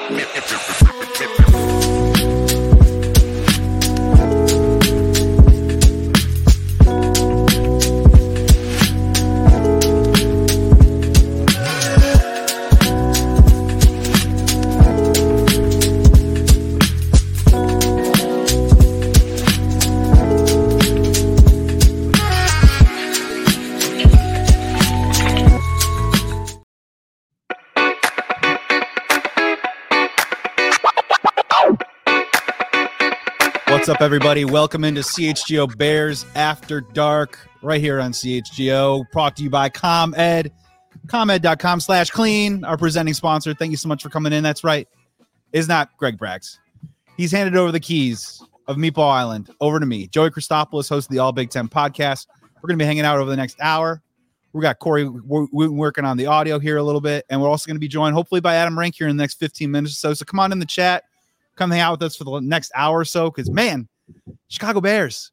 What's up, everybody? Welcome into CHGO Bears After Dark right here on CHGO. Brought to you by ComEd. ComEd.com/clean, our presenting sponsor. Thank you so much for coming in. That's right. It's not Greg Braggs. He's handed over the keys of Meatball Island over to me. Joey Christopoulos, host of the All Big Ten podcast. We're going to be hanging out over the next hour. We got Corey working on the audio here a little bit, and we're also going to be joined hopefully by Adam Rank here in the next 15 minutes or so. So come on in the chat. Come hang out with us for the next hour or so, because, man, Chicago Bears,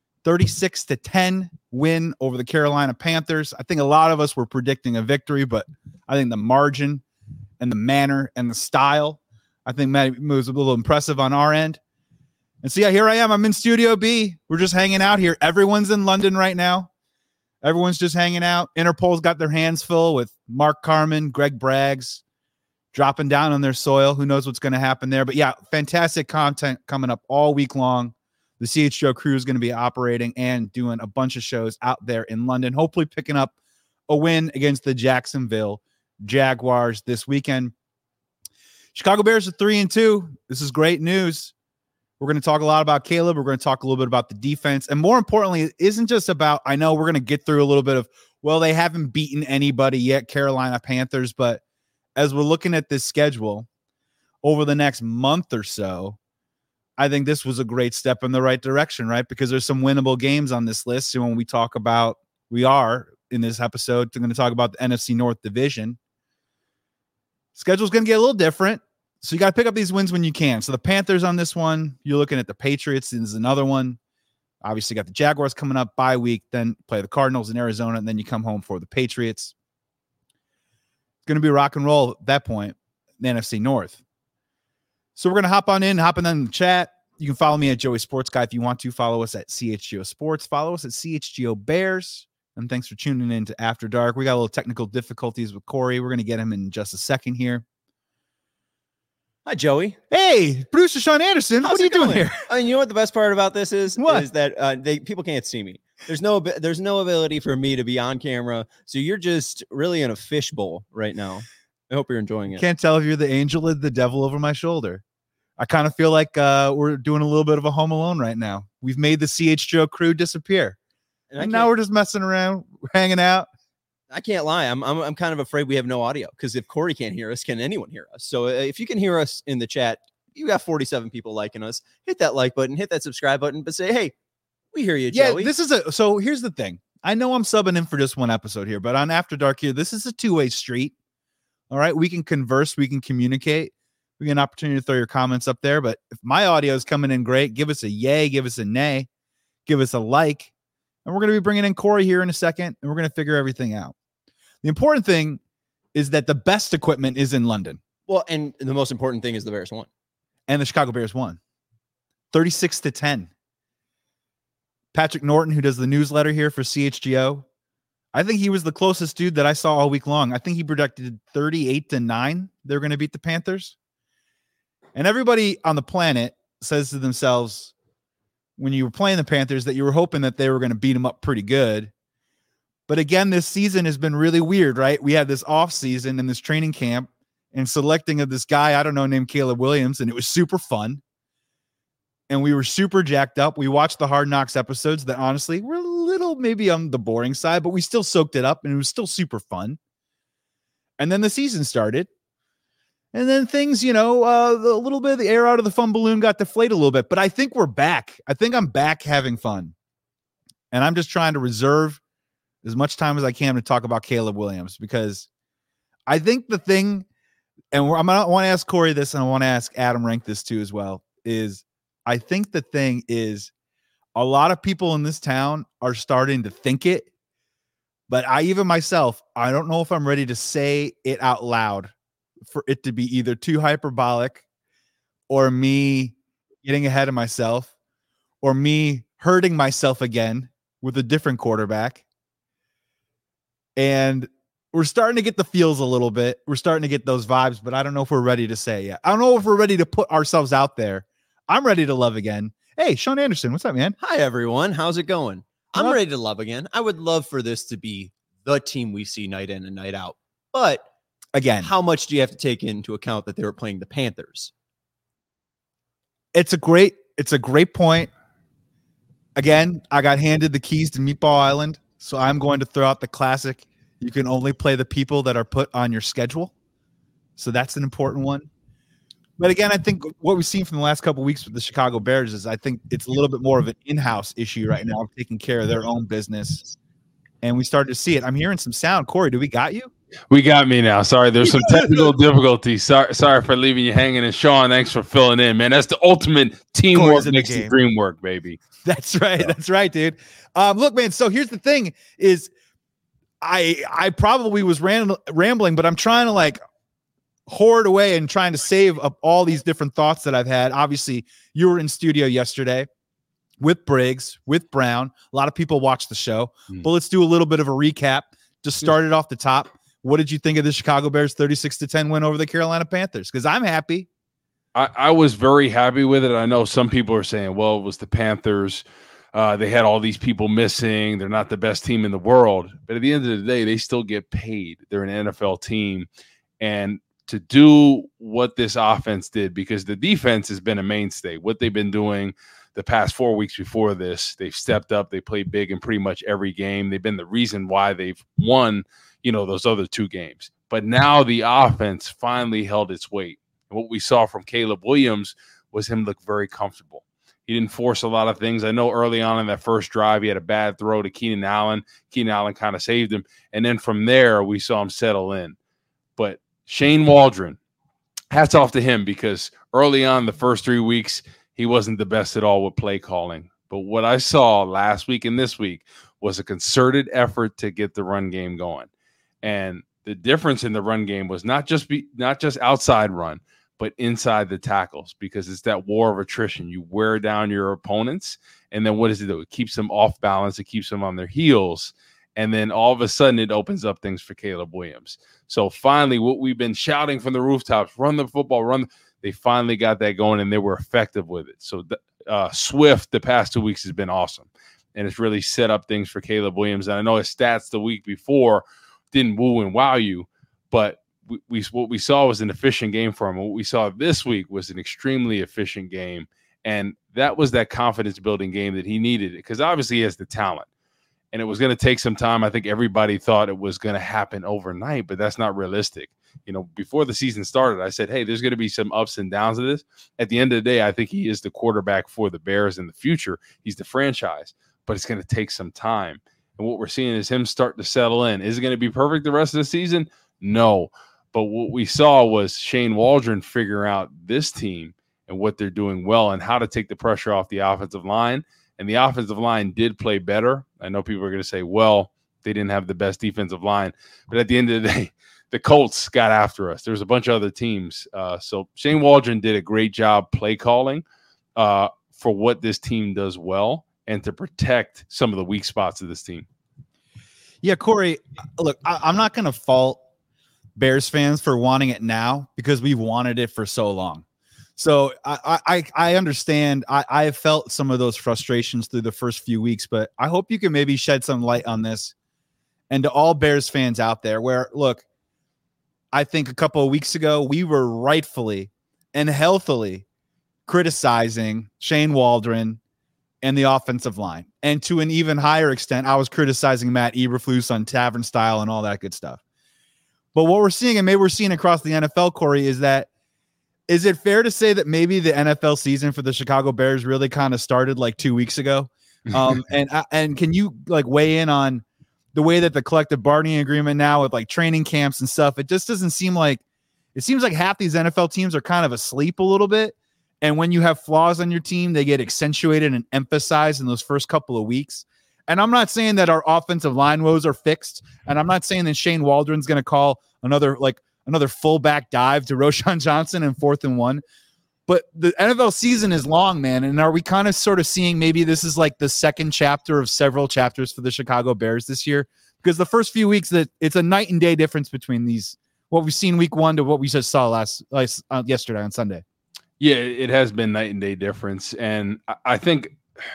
36-10 win over the Carolina Panthers. I think a lot of us were predicting a victory, but I think the margin and the manner and the style, I think was a little impressive on our end. And so, yeah, here I am. I'm in Studio B. We're just hanging out here. Everyone's in London right now. Everyone's just hanging out. Interpol's got their hands full with Mark Carman, Greg Braggs, dropping down on their soil. Who knows what's going to happen there? But yeah, fantastic content coming up all week long. The CHGO crew is going to be operating and doing a bunch of shows out there in London, hopefully picking up a win against the Jacksonville Jaguars this weekend. Chicago Bears are 3-2. This is great news. We're going to talk a lot about Caleb. We're going to talk a little bit about the defense. And more importantly, it isn't just about, I know we're going to get through a little bit of, well, they haven't beaten anybody yet, Carolina Panthers, but as we're looking at this schedule over the next month or so, I think this was a great step in the right direction, right? Because there's some winnable games on this list. So when we are in this episode, we're going to talk about the NFC North division. Schedule's going to get a little different. So you got to pick up these wins when you can. So the Panthers on this one, you're looking at the Patriots. This is another one. Obviously got the Jaguars coming up bye week, then play the Cardinals in Arizona, and then you come home for the Patriots. Going to be rock and roll at that point, the NFC North. So we're going to hop on in the chat. You can follow me at Joey Sports Guy if you want to. Follow us at CHGO Sports. Follow us at CHGO Bears. And thanks for tuning in to After Dark. We got a little technical difficulties with Corey. We're going to get him in just a second here. Hi, Joey. Hey, producer Sean Anderson. What are you doing here? I mean, you know what the best part about this is? What? Is that people can't see me. There's no ability for me to be on camera. So you're just really in a fishbowl right now. I hope you're enjoying it. Can't tell if you're the angel or the devil over my shoulder. I kind of feel like we're doing a little bit of a Home Alone right now. We've made the CHGO crew disappear. And now we're just messing around, hanging out. I can't lie. I'm kind of afraid we have no audio, because if Corey can't hear us, can anyone hear us? So if you can hear us in the chat, you got 47 people liking us. Hit that like button, hit that subscribe button, but say, hey, we hear you, Joey. Yeah, so here's the thing. I know I'm subbing in for just one episode here, but on After Dark here, this is a two-way street. All right, we can converse, we can communicate. We get an opportunity to throw your comments up there, but if my audio is coming in great, give us a yay, give us a nay, give us a like. And we're going to be bringing in Corey here in a second, and we're going to figure everything out. The important thing is that the best equipment is in London. Well, and the most important thing is the Bears won. And the Chicago Bears won. 36-10. Patrick Norton, who does the newsletter here for CHGO, I think he was the closest dude that I saw all week long. I think he predicted 38-9 they're going to beat the Panthers. And everybody on the planet says to themselves, when you were playing the Panthers, that you were hoping that they were going to beat them up pretty good. But again, this season has been really weird, right? We had this off season in this training camp and selecting of this guy, I don't know, named Caleb Williams. And it was super fun. And we were super jacked up. We watched the Hard Knocks episodes that honestly were a little maybe on the boring side, but we still soaked it up and it was still super fun. And then the season started. And then things, a little bit of the air out of the fun balloon got deflated a little bit. But I think we're back. I think I'm back having fun. And I'm just trying to reserve as much time as I can to talk about Caleb Williams, because I think the thing, and I want to ask Corey this, and I want to ask Adam Rank this too as well, is I think the thing is a lot of people in this town are starting to think it, but I don't know if I'm ready to say it out loud for it to be either too hyperbolic or me getting ahead of myself or me hurting myself again with a different quarterback. And we're starting to get the feels a little bit. We're starting to get those vibes, but I don't know if we're ready to say yet. I don't know if we're ready to put ourselves out there. I'm ready to love again. Hey, Sean Anderson, what's up, man? Hi, everyone. How's it going? I'm ready to love again. I would love for this to be the team we see night in and night out. But again, how much do you have to take into account that they were playing the Panthers? It's a great point. Again, I got handed the keys to Meatball Island, so I'm going to throw out the classic. You can only play the people that are put on your schedule. So that's an important one. But again, I think what we've seen from the last couple of weeks with the Chicago Bears is I think it's a little bit more of an in-house issue right now of taking care of their own business. And we started to see it. I'm hearing some sound. Corey, do we got you? We got me now. Sorry, there's some technical difficulties. Sorry for leaving you hanging. And Sean, thanks for filling in, man. That's the ultimate teamwork next to dream work, baby. That's right. So. That's right, dude. Look, man. So here's the thing: is I probably was rambling, but I'm trying to like hoard away and trying to save up all these different thoughts that I've had. Obviously, you were in studio yesterday with Briggs, with Brown. A lot of people watched the show, but let's do a little bit of a recap. Just start it off the top. What did you think of the Chicago Bears 36-10 win over the Carolina Panthers? Because I'm happy. I was very happy with it. I know some people are saying, well, it was the Panthers. They had all these people missing. They're not the best team in the world. But at the end of the day, they still get paid. They're an NFL team. And to do what this offense did, because the defense has been a mainstay, what they've been doing the past 4 weeks before this, they've stepped up. They played big in pretty much every game. They've been the reason why they've won, those other two games. But now the offense finally held its weight. And what we saw from Caleb Williams was him look very comfortable. He didn't force a lot of things. I know early on in that first drive, he had a bad throw to Keenan Allen. Keenan Allen kind of saved him. And then from there, we saw him settle in. But Shane Waldron, hats off to him, because early on the first 3 weeks, he wasn't the best at all with play calling. But what I saw last week and this week was a concerted effort to get the run game going. And the difference in the run game was not just outside run, but inside the tackles, because it's that war of attrition. You wear down your opponents, and then what does it do? It keeps them off balance. It keeps them on their heels. And then all of a sudden it opens up things for Caleb Williams. So finally, what we've been shouting from the rooftops, run the football, they finally got that going, and they were effective with it. So Swift the past 2 weeks has been awesome, and it's really set up things for Caleb Williams. And I know his stats the week before didn't woo and wow you, but what we saw was an efficient game for him. What we saw this week was an extremely efficient game, and that was that confidence-building game that he needed, because obviously he has the talent. And it was going to take some time. I think everybody thought it was going to happen overnight, but that's not realistic. Before the season started, I said, hey, there's going to be some ups and downs of this. At the end of the day, I think he is the quarterback for the Bears in the future. He's the franchise, but it's going to take some time. And what we're seeing is him start to settle in. Is it going to be perfect the rest of the season? No. But what we saw was Shane Waldron figure out this team and what they're doing well and how to take the pressure off the offensive line. And the offensive line did play better. I know people are going to say, well, they didn't have the best defensive line. But at the end of the day, the Colts got after us. There's a bunch of other teams. So Shane Waldron did a great job play calling for what this team does well and to protect some of the weak spots of this team. Yeah, Corey, look, I'm not going to fault Bears fans for wanting it now, because we've wanted it for so long. So I understand. I have felt some of those frustrations through the first few weeks, but I hope you can maybe shed some light on this. And to all Bears fans out there, where, look, I think a couple of weeks ago, we were rightfully and healthily criticizing Shane Waldron and the offensive line. And to an even higher extent, I was criticizing Matt Eberflus on Tavern Style and all that good stuff. But what we're seeing, and maybe we're seeing across the NFL, Corey, is it fair to say that maybe the NFL season for the Chicago Bears really kind of started like 2 weeks ago? And can you like weigh in on the way that the collective bargaining agreement now with like training camps and stuff, it just doesn't seem like, it seems like half these NFL teams are kind of asleep a little bit. And when you have flaws on your team, they get accentuated and emphasized in those first couple of weeks. And I'm not saying that our offensive line woes are fixed. And I'm not saying that Shane Waldron's going to call another like another fullback dive to Roschon Johnson in 4th and 1. But the NFL season is long, man. And are we kind of sort of seeing maybe this is like the second chapter of several chapters for the Chicago Bears this year? Because the first few weeks, that it's a night and day difference between these, what we've seen week 1 to what we just saw yesterday on Sunday. Yeah, it has been night and day difference. And I think,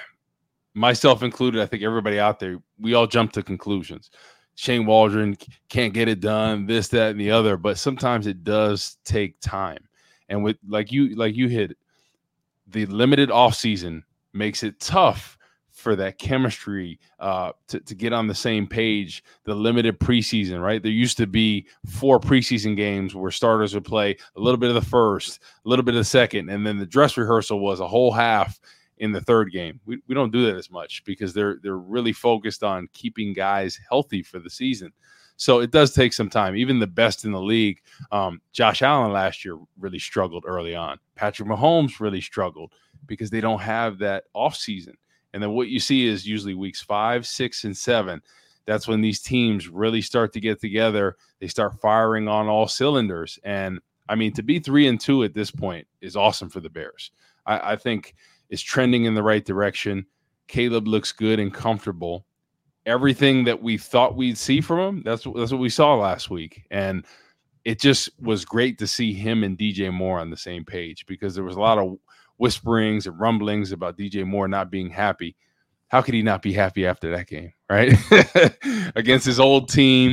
myself included, I think everybody out there, we all jump to conclusions. Shane Waldron can't get it done, this, that, and the other. But sometimes it does take time. And with like you hit, the limited offseason makes it tough for that chemistry to get on the same page. The limited preseason, right? There used to be 4 preseason games where starters would play a little bit of the first, a little bit of the second, and then the dress rehearsal was a whole half in the third game. We don't do that as much because they're really focused on keeping guys healthy for the season. So it does take some time. Even the best in the league, Josh Allen last year really struggled early on. Patrick Mahomes really struggled because they don't have that offseason. And then what you see is usually weeks 5, 6, and 7. That's when these teams really start to get together. They start firing on all cylinders. And, I mean, to be 3-2 at this point is awesome for the Bears. I think it's trending in the right direction. Caleb looks good and comfortable. Everything that we thought we'd see from him, that's what we saw last week. And it just was great to see him and DJ Moore on the same page because there was a lot of whisperings and rumblings about DJ Moore not being happy. How could he not be happy after that game, right? Against his old team.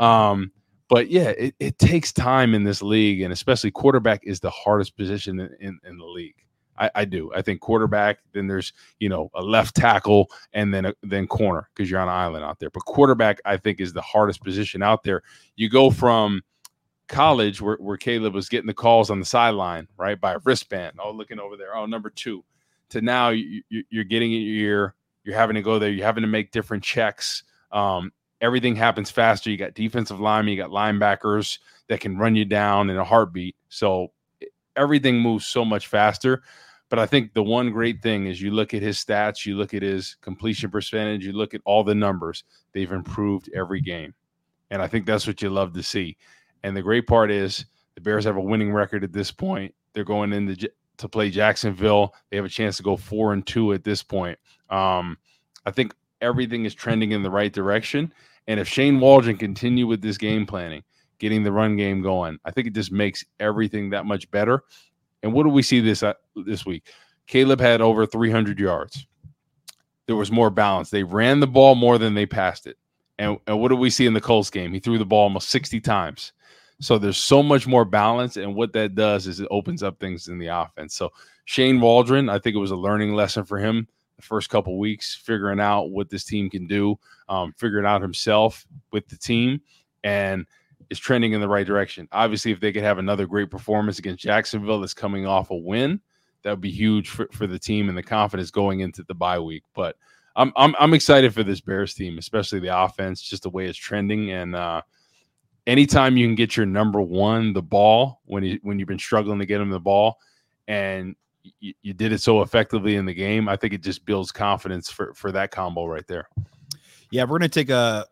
But, yeah, it takes time in this league, and especially quarterback is the hardest position in the league. I do. I think quarterback, then there's, a left tackle and then corner because you're on an island out there. But quarterback, I think, is the hardest position out there. You go from college where Caleb was getting the calls on the sideline, right, by a wristband, looking over there, number 2, to now you're getting in your ear. You're having to go there. You're having to make different checks. Everything happens faster. You got defensive linemen. You got linebackers that can run you down in a heartbeat. So everything moves so much faster. But I think the one great thing is you look at his stats, you look at his completion percentage, you look at all the numbers. They've improved every game. And I think that's what you love to see. And the great part is the Bears have a winning record at this point. They're going in to play Jacksonville. They have a chance to go 4-2 at this point. I think everything is trending in the right direction. And if Shane Waldron continue with this game planning, getting the run game going, I think it just makes everything that much better. And what do we see this week? Caleb had over 300 yards. There was more balance. They ran the ball more than they passed it. And what do we see in the Colts game? He threw the ball almost 60 times. So there's so much more balance. And what that does is it opens up things in the offense. So Shane Waldron, I think it was a learning lesson for him the first couple weeks, figuring out what this team can do, figuring out himself with the team. And is trending in the right direction. Obviously, if they could have another great performance against Jacksonville that's coming off a win, that would be huge for the team and the confidence going into the bye week. But I'm excited for this Bears team, especially the offense, just the way it's trending. And anytime you can get your number 1 the ball when you've been struggling to get him the ball, and you did it so effectively in the game, I think it just builds confidence for that combo right there. Yeah, we're gonna take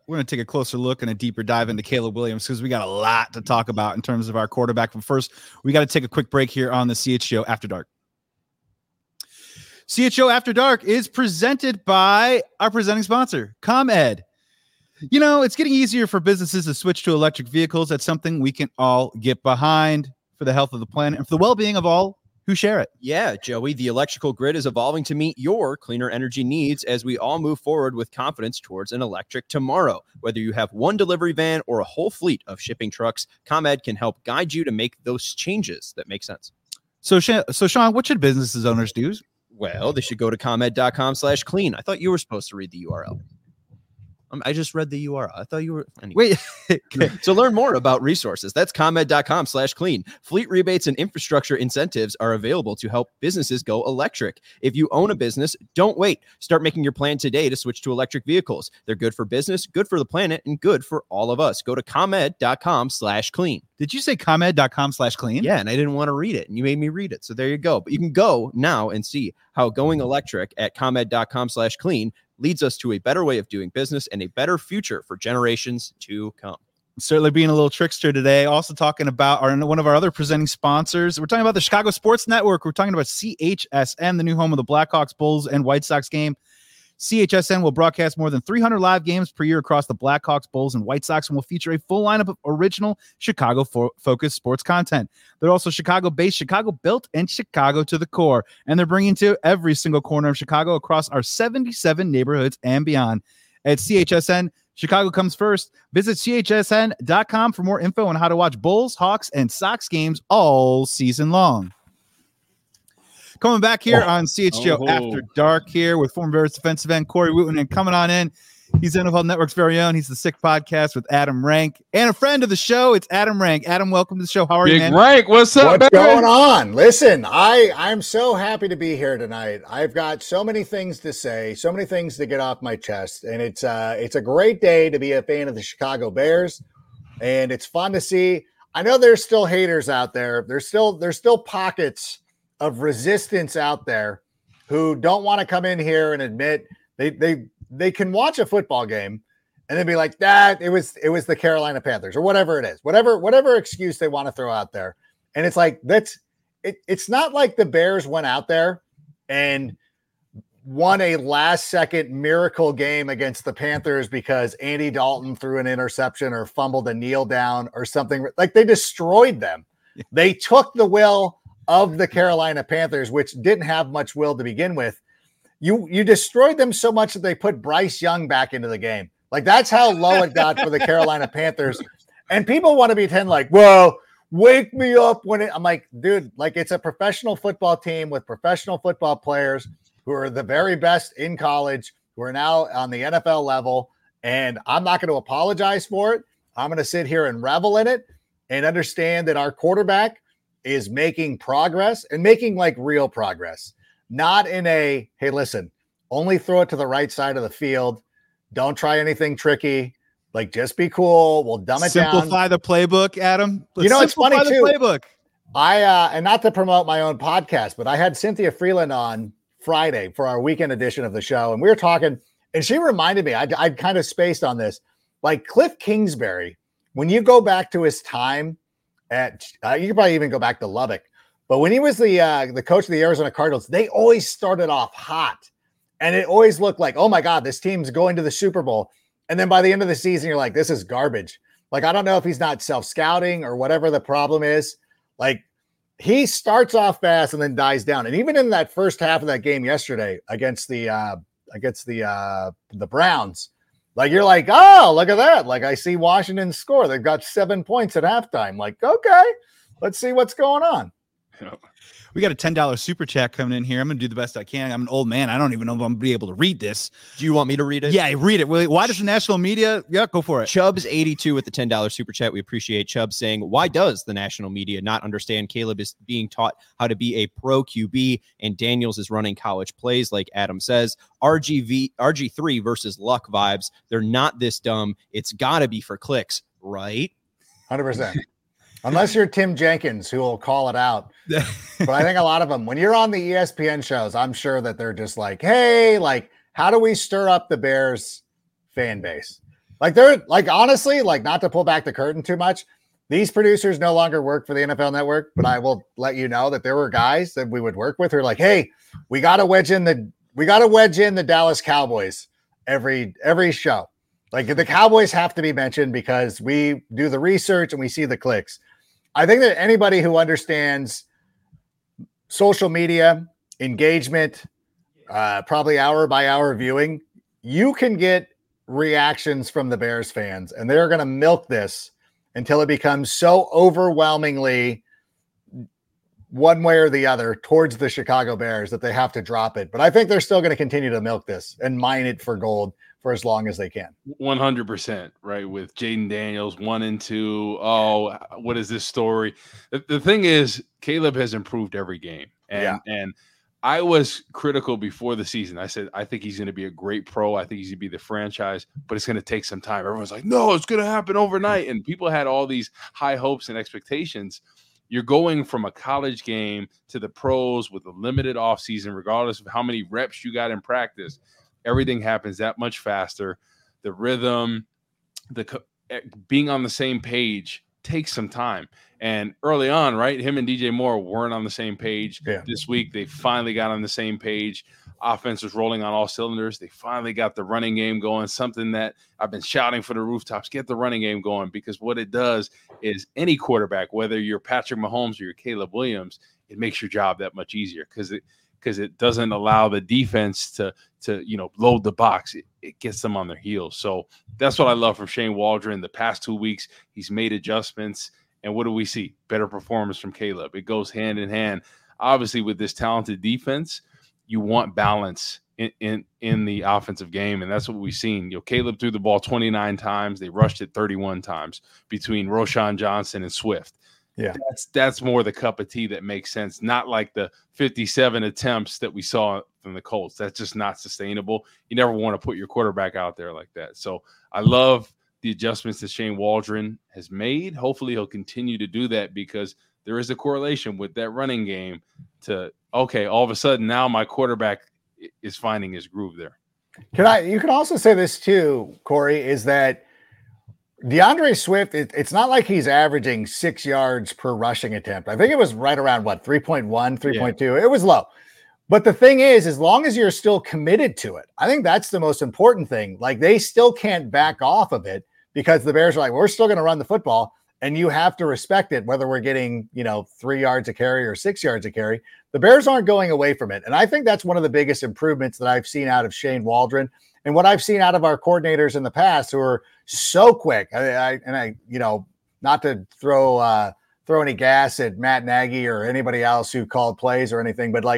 a closer look and a deeper dive into Caleb Williams because we got a lot to talk about in terms of our quarterback. But first, we got to take a quick break here on the CHGO After Dark. CHGO After Dark is presented by our presenting sponsor, ComEd. It's getting easier for businesses to switch to electric vehicles. That's something we can all get behind for the health of the planet and for the well-being of all who share it. Yeah, Joey, the electrical grid is evolving to meet your cleaner energy needs as we all move forward with confidence towards an electric tomorrow. Whether you have one delivery van or a whole fleet of shipping trucks, ComEd can help guide you to make those changes that make sense. So Sean, what should businesses owners do? Well, they should go to ComEd.com/clean. I thought you were supposed to read the URL. I just read the URL. I thought you were. Anyway. Wait. To learn more about resources, that's ComEd.com/clean. Fleet rebates and infrastructure incentives are available to help businesses go electric. If you own a business, don't wait. Start making your plan today to switch to electric vehicles. They're good for business, good for the planet, and good for all of us. Go to ComEd.com/clean. Did you say ComEd.com/clean? Yeah, and I didn't want to read it, and you made me read it. So there you go. But you can go now and see how going electric at ComEd.com/clean leads us to a better way of doing business and a better future for generations to come. Certainly being a little trickster today. Also talking about one of our other presenting sponsors. We're talking about the Chicago Sports Network. We're talking about CHSN, the new home of the Blackhawks, Bulls, and White Sox game. CHSN will broadcast more than 300 live games per year across the Blackhawks, Bulls, and White Sox, and will feature a full lineup of original Chicago-focused sports content. They're also Chicago-based, Chicago-built, and Chicago to the core. And they're bringing to every single corner of Chicago across our 77 neighborhoods and beyond. At CHSN, Chicago comes first. Visit chsn.com for more info on how to watch Bulls, Hawks, and Sox games all season long. Coming back here on CHGO After Dark here with former Bears defensive end Corey Wootton, and coming on in, he's NFL Network's very own. He's the Sick Podcast with Adam Rank, and a friend of the show. It's Adam Rank. Adam, welcome to the show. How are you, man? Rank, what's up? What's going on? Listen, I'm so happy to be here tonight. I've got so many things to say, so many things to get off my chest, and it's a great day to be a fan of the Chicago Bears, and it's fun to see. I know there's still haters out there. There's still pockets of resistance out there who don't want to come in here and admit they can watch a football game and then be like, that it was the Carolina Panthers or whatever it is, whatever excuse they want to throw out there. And it's like, it's not like the Bears went out there and won a last second miracle game against the Panthers because Andy Dalton threw an interception or fumbled a kneel down or something. Like, they destroyed them. They took the will of the Carolina Panthers, which didn't have much will to begin with. You destroyed them so much that they put Bryce Young back into the game. Like, that's how low it got for the Carolina Panthers. And people want to pretend like, well, wake me up when I'm like, dude, like, it's a professional football team with professional football players who are the very best in college, who are now on the NFL level. And I'm not going to apologize for it. I'm going to sit here and revel in it and understand that our quarterback is making progress and making like real progress, not in a, hey, listen, only throw it to the right side of the field. Don't try anything tricky. Like, just be cool. We'll dumb it down. Simplify the playbook, Adam. It's funny too. Playbook. And not to promote my own podcast, but I had Cynthia Freeland on Friday for our weekend edition of the show. And we were talking, and she reminded me, I'd kind of spaced on this, like Cliff Kingsbury, when you go back to his time at, you could probably even go back to Lubbock, but when he was the coach of the Arizona Cardinals, they always started off hot, and it always looked like, oh my God, this team's going to the Super Bowl. And then by the end of the season, you're like, this is garbage. Like, I don't know if he's not self-scouting or whatever the problem is. Like, he starts off fast and then dies down. And even in that first half of that game yesterday against the Browns, like, you're like, oh, look at that. Like, I see Washington score. They've got 7 points at halftime. Like, okay, let's see what's going on. We got a $10 super chat coming in here. I'm going to do the best I can. I'm an old man. I don't even know if I'm going to be able to read this. Do you want me to read it? Yeah, read it. Why does the national media? Yeah, go for it. Chubbs82 with the $10 super chat. We appreciate Chubb saying, why does the national media not understand Caleb is being taught how to be a pro QB and Daniels is running college plays like Adam says? RG3 versus Luck vibes. They're not this dumb. It's got to be for clicks, right? 100%. Unless you're Tim Jenkins, who will call it out. But I think a lot of them, when you're on the ESPN shows, I'm sure that they're just like, hey, like, how do we stir up the Bears fan base? Like, they're like, honestly, like, not to pull back the curtain too much, these producers no longer work for the NFL Network, but I will let you know that there were guys that we would work with who are like, hey, we got to wedge in the Dallas Cowboys every show. Like, the Cowboys have to be mentioned because we do the research and we see the clicks. I think that anybody who understands social media, engagement, probably hour by hour viewing, you can get reactions from the Bears fans, and they're going to milk this until it becomes so overwhelmingly one way or the other towards the Chicago Bears that they have to drop it. But I think they're still going to continue to milk this and mine it for gold for as long as they can. 100%, right? With Jaden Daniels 1 and 2. Oh, what is this story? The thing is, Caleb has improved every game. And I was critical before the season. I said, I think he's going to be a great pro. I think he's going to be the franchise, but it's going to take some time. Everyone's like, no, it's going to happen overnight. And people had all these high hopes and expectations. You're going from a college game to the pros with a limited offseason, regardless of how many reps you got in practice. Everything happens that much faster. The rhythm, being on the same page takes some time. And early on, right, him and DJ Moore weren't on the same page. Yeah. This week, they finally got on the same page. Offense was rolling on all cylinders. They finally got the running game going, something that I've been shouting for the rooftops, get the running game going, because what it does is any quarterback, whether you're Patrick Mahomes or you're Caleb Williams, it makes your job that much easier because it doesn't allow the defense to load the box. It gets them on their heels. So that's what I love from Shane Waldron. The past 2 weeks, he's made adjustments. And what do we see? Better performance from Caleb. It goes hand in hand. Obviously, with this talented defense, you want balance in the offensive game, and that's what we've seen. Caleb threw the ball 29 times. They rushed it 31 times between Roschon Johnson and Swift. Yeah, that's more the cup of tea that makes sense, not like the 57 attempts that we saw from the Colts. That's just not sustainable. You never want to put your quarterback out there like that. So I love the adjustments that Shane Waldron has made. Hopefully he'll continue to do that because there is a correlation with that running game to, okay, all of a sudden now my quarterback is finding his groove there. You can also say this too, Corey, is that DeAndre Swift, it's not like he's averaging 6 yards per rushing attempt. I think it was right around 3.1, 3.2. Yeah. It was low. But the thing is, as long as you're still committed to it, I think that's the most important thing. Like, they still can't back off of it because the Bears are like, we're still going to run the football. And you have to respect it, whether we're getting, 3 yards a carry or 6 yards a carry. The Bears aren't going away from it. And I think that's one of the biggest improvements that I've seen out of Shane Waldron and what I've seen out of our coordinators in the past who are so quick. I not to throw any gas at Matt Nagy or anybody else who called plays or anything, but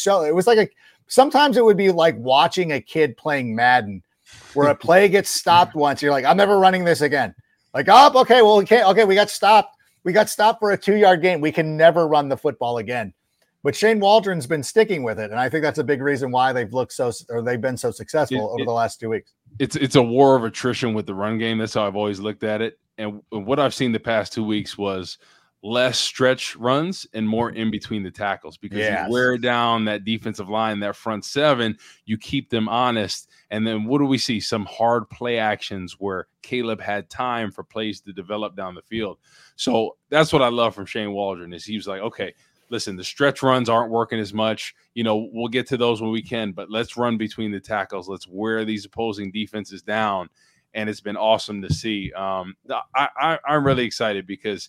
sometimes it would be like watching a kid playing Madden where a play gets stopped once. You're like, I'm never running this again. Like, oh, okay, well, we can't. Okay, we got stopped. We got stopped for a 2-yard gain. We can never run the football again. But Shane Waldron's been sticking with it, and I think that's a big reason why they've been so successful over the last 2 weeks. It's a war of attrition with the run game. That's how I've always looked at it. And what I've seen the past 2 weeks was less stretch runs and more in between the tackles because you wear down that defensive line, that front seven, you keep them honest. And then what do we see? Some hard play actions where Caleb had time for plays to develop down the field. So that's what I love from Shane Waldron is he was like, okay, listen, the stretch runs aren't working as much. We'll get to those when we can, but let's run between the tackles. Let's wear these opposing defenses down. And it's been awesome to see. I'm really excited because,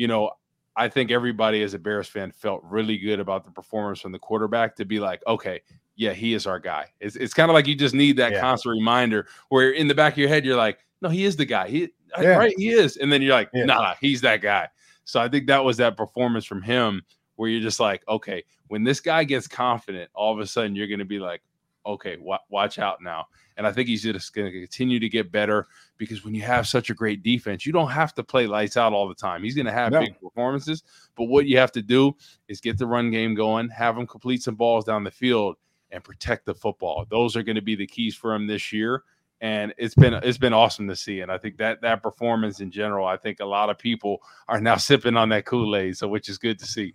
I think everybody as a Bears fan felt really good about the performance from the quarterback to be like, okay, yeah, he is our guy. It's kind of like you just need that constant reminder where in the back of your head, you're like, no, he is the guy. Right, he is. And then you're like, nah, he's that guy. So I think that was that performance from him where you're just like, okay, when this guy gets confident, all of a sudden you're going to be like, okay, watch out now. And I think he's just going to continue to get better because when you have such a great defense, you don't have to play lights out all the time. He's going to have big performances, but what you have to do is get the run game going, have him complete some balls down the field, and protect the football. Those are going to be the keys for him this year. And it's been awesome to see. And I think that performance in general, I think a lot of people are now sipping on that Kool-Aid, so which is good to see.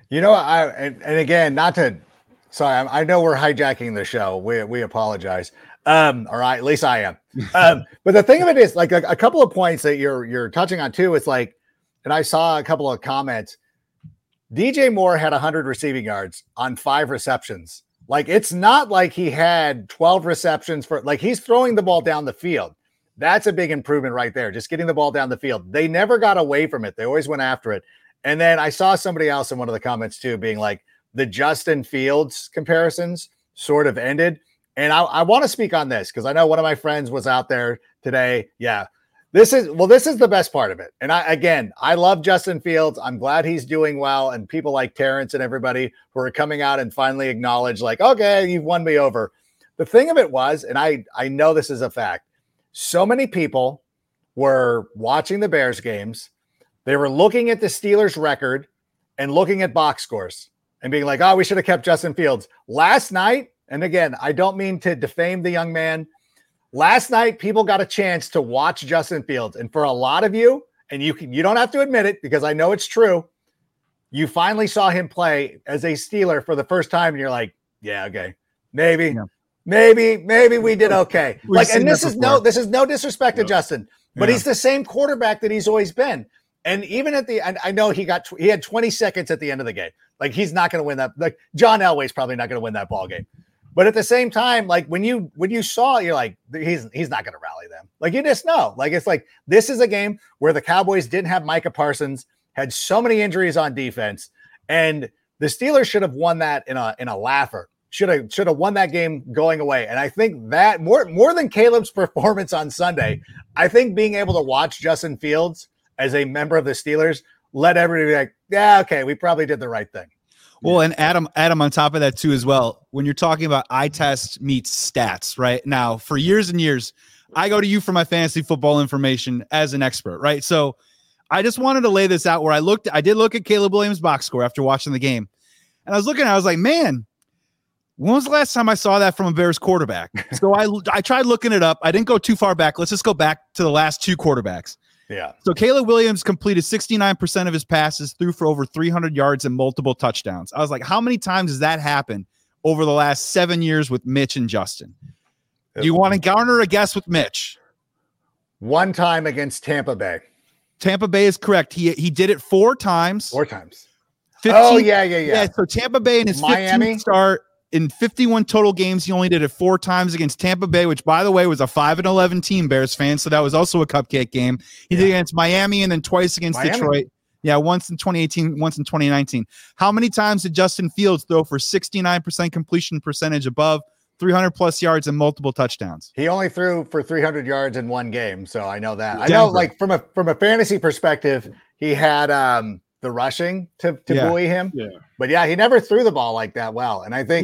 And again, sorry, I know we're hijacking the show. We apologize. All right, at least I am. But the thing of it is, like a couple of points that you're touching on too. It's like, and I saw a couple of comments. DJ Moore had 100 receiving yards on 5 receptions. Like, it's not like he had 12 receptions he's throwing the ball down the field. That's a big improvement right there. Just getting the ball down the field. They never got away from it. They always went after it. And then I saw somebody else in one of the comments too, being like the Justin Fields comparisons sort of ended. And I want to speak on this because I know one of my friends was out there today. Yeah, this is the best part of it. And I love Justin Fields. I'm glad he's doing well. And people like Terrence and everybody who are coming out and finally acknowledge like, okay, you've won me over. The thing of it was, and I know this is a fact, so many people were watching the Bears games. They were looking at the Steelers record and looking at box scores and being like, oh, we should have kept Justin Fields. Last night, and again, I don't mean to defame the young man. Last night, people got a chance to watch Justin Fields. And for a lot of you, and you don't have to admit it because I know it's true, you finally saw him play as a Steeler for the first time. And you're like, yeah, okay, maybe we did okay. This is no disrespect to Justin. but he's the same quarterback that he's always been. And even at the end, I know he had 20 seconds at the end of the game. Like, he's not going to win that. Like, John Elway's probably not going to win that ball game. But at the same time, like, when you saw it, you're like, he's not going to rally them. Like, you just know. Like, it's like, this is a game where the Cowboys didn't have Micah Parsons, had so many injuries on defense, and the Steelers should have won that in a laugher. Should have won that game going away. And I think that more than Caleb's performance on Sunday, I think being able to watch Justin Fields as a member of the Steelers let everybody be like, yeah, okay, we probably did the right thing. Well, and Adam, on top of that too, as well, when you're talking about eye test meets stats, right? Now, for years and years, I go to you for my fantasy football information as an expert, right? So I just wanted to lay this out where I did look at Caleb Williams' box score after watching the game. And I was like, man, when was the last time I saw that from a Bears quarterback? So I tried looking it up. I didn't go too far back. Let's just go back to the last two quarterbacks. Yeah. So Caleb Williams completed 69% of his passes, threw for over 300 yards and multiple touchdowns. I was like, how many times has that happened over the last 7 years with Mitch and Justin? Do you want to garner a guess with Mitch? One time against Tampa Bay. Tampa Bay is correct. He did it 4 times. 4 times. 15, yeah. So Tampa Bay in his 15th start in 51 total games, he only did it 4 times against Tampa Bay, which, by the way, was a 5-11 team, Bears fans. So that was also a cupcake game. He did against Miami and then twice against Detroit. Yeah, once in 2018, once in 2019. How many times did Justin Fields throw for 69% completion percentage above 300 plus yards and multiple touchdowns? He only threw for 300 yards in one game, so I know that. I know, like, from a fantasy perspective, he had the rushing to buoy him. Yeah. But he never threw the ball like that well. And I think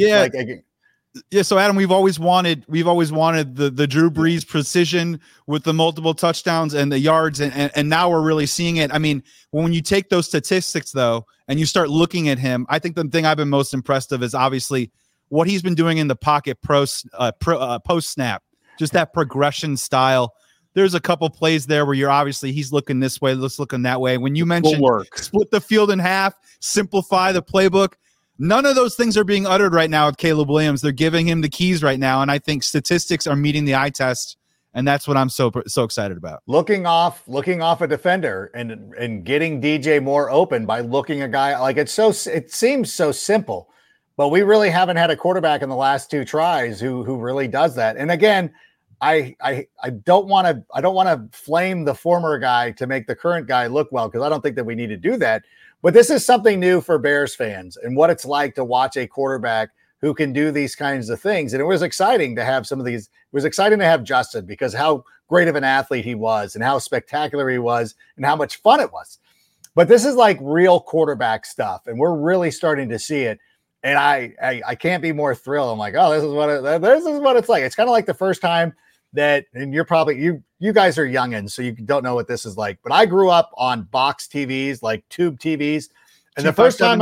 so Adam, we've always wanted the Drew Brees precision with the multiple touchdowns and the yards, and now we're really seeing it. I mean, when you take those statistics though, and you start looking at him, I think the thing I've been most impressed of is obviously what he's been doing in the pocket post snap, just that progression style. There's a couple plays there where he's looking this way, let's looking that way. When you mentioned split the field in half, simplify the playbook, none of those things are being uttered right now with Caleb Williams. They're giving him the keys right now, and I think statistics are meeting the eye test, and that's what I'm so excited about. Looking off a defender and getting DJ Moore open by looking a guy like it seems so simple, but we really haven't had a quarterback in the last 2 tries who really does that. And again, I don't want to flame the former guy to make the current guy look well, because I don't think that we need to do that. But this is something new for Bears fans and what it's like to watch a quarterback who can do these kinds of things. And it was exciting to have some of these. It was exciting to have Justin, because how great of an athlete he was and how spectacular he was and how much fun it was. But this is like real quarterback stuff, and we're really starting to see it. And I can't be more thrilled. I'm like, oh, this is what it's like. It's kind of like the first time that, and you're probably, you guys are youngins, so you don't know what this is like, but I grew up on box TVs, like tube TVs. And the first time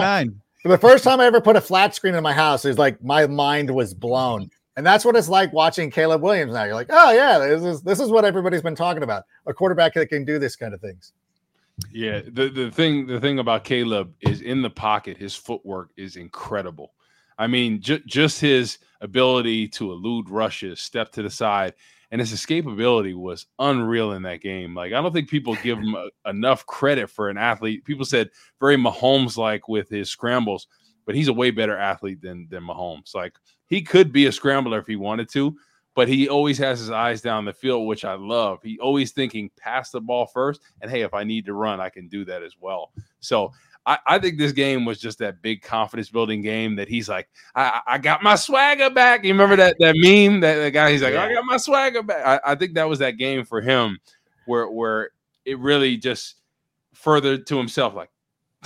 I ever put a flat screen in my house, is like, my mind was blown. And that's what it's like watching Caleb Williams now. You're like, oh yeah, this is what everybody's been talking about. A quarterback that can do this kind of things. Yeah. The thing about Caleb is, in the pocket, his footwork is incredible. I mean, just his ability to elude rushes, step to the side, and his escapability was unreal in that game. Like, I don't think people give him enough credit for an athlete. People said very Mahomes-like with his scrambles, but he's a way better athlete than Mahomes. Like, he could be a scrambler if he wanted to, but he always has his eyes down the field, which I love. He always thinking pass the ball first, and hey, if I need to run, I can do that as well. So I think this game was just that big confidence-building game that he's like, I got my swagger back. You remember that meme? That guy, he's like, I got my swagger back. I think that was that game for him where it really just furthered to himself, like,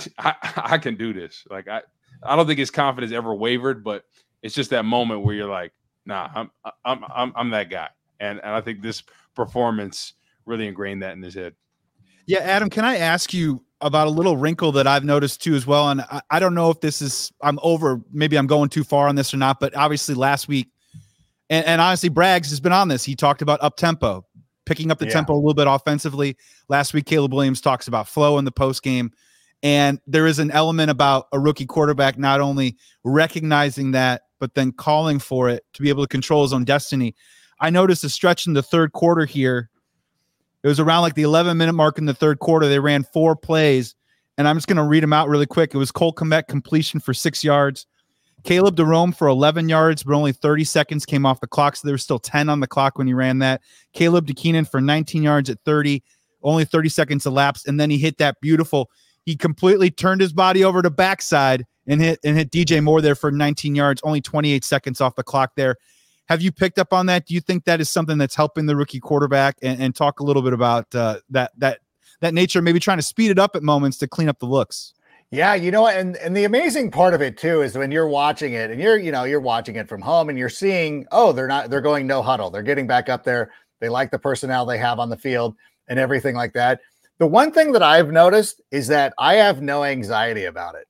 I can do this. Like, I don't think his confidence ever wavered, but it's just that moment where you're like, nah, I'm that guy. And I think this performance really ingrained that in his head. Yeah, Adam, can I ask you about a little wrinkle that I've noticed too as well? And I don't know if this is, maybe I'm going too far on this or not, but obviously last week, and honestly, Braggs has been on this. He talked about up-tempo, picking up the tempo a little bit offensively. Last week, Caleb Williams talks about flow in the post game. And there is an element about a rookie quarterback not only recognizing that, but then calling for it to be able to control his own destiny. I noticed a stretch in the third quarter here It was around like the 11-minute mark in the third quarter. They ran 4 plays, and I'm just going to read them out really quick. It was Cole Kmet completion for 6 yards. Caleb DeRome for 11 yards, but only 30 seconds came off the clock, so there was still 10 on the clock when he ran that. Caleb DeKeenan for 19 yards at 30, only 30 seconds elapsed, and then he hit that beautiful. He completely turned his body over to backside and hit DJ Moore there for 19 yards, only 28 seconds off the clock there. Have you picked up on that? Do you think that is something that's helping the rookie quarterback? And talk a little bit about that nature, maybe trying to speed it up at moments to clean up the looks. Yeah, you know, and the amazing part of it too is when you're watching it and you're watching it from home and you're seeing, they're going no huddle. They're getting back up there. They like the personnel they have on the field and everything like that. The one thing that I've noticed is that I have no anxiety about it.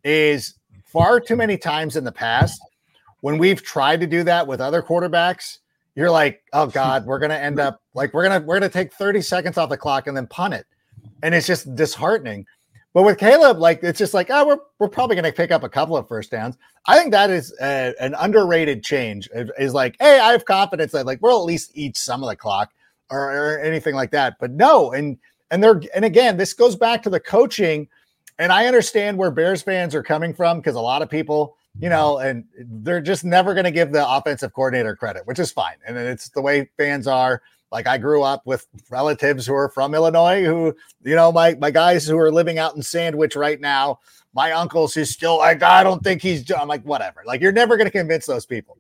Is far too many times in the past when we've tried to do that with other quarterbacks, you're like, oh God, we're going to end up like, we're going to take 30 seconds off the clock and then punt it. And it's just disheartening. But with Caleb, like, it's just like, we're probably going to pick up a couple of first downs. I think that is an underrated change. Is like, hey, I have confidence that like we'll at least eat some of the clock or anything like that. But no, and again, this goes back to the coaching. And I understand where Bears fans are coming from because a lot of people, and they're just never going to give the offensive coordinator credit, which is fine. And it's the way fans are. Like I grew up with relatives who are from Illinois who, my guys who are living out in Sandwich right now, my uncles who's still like, I don't think I'm like, whatever. Like you're never going to convince those people.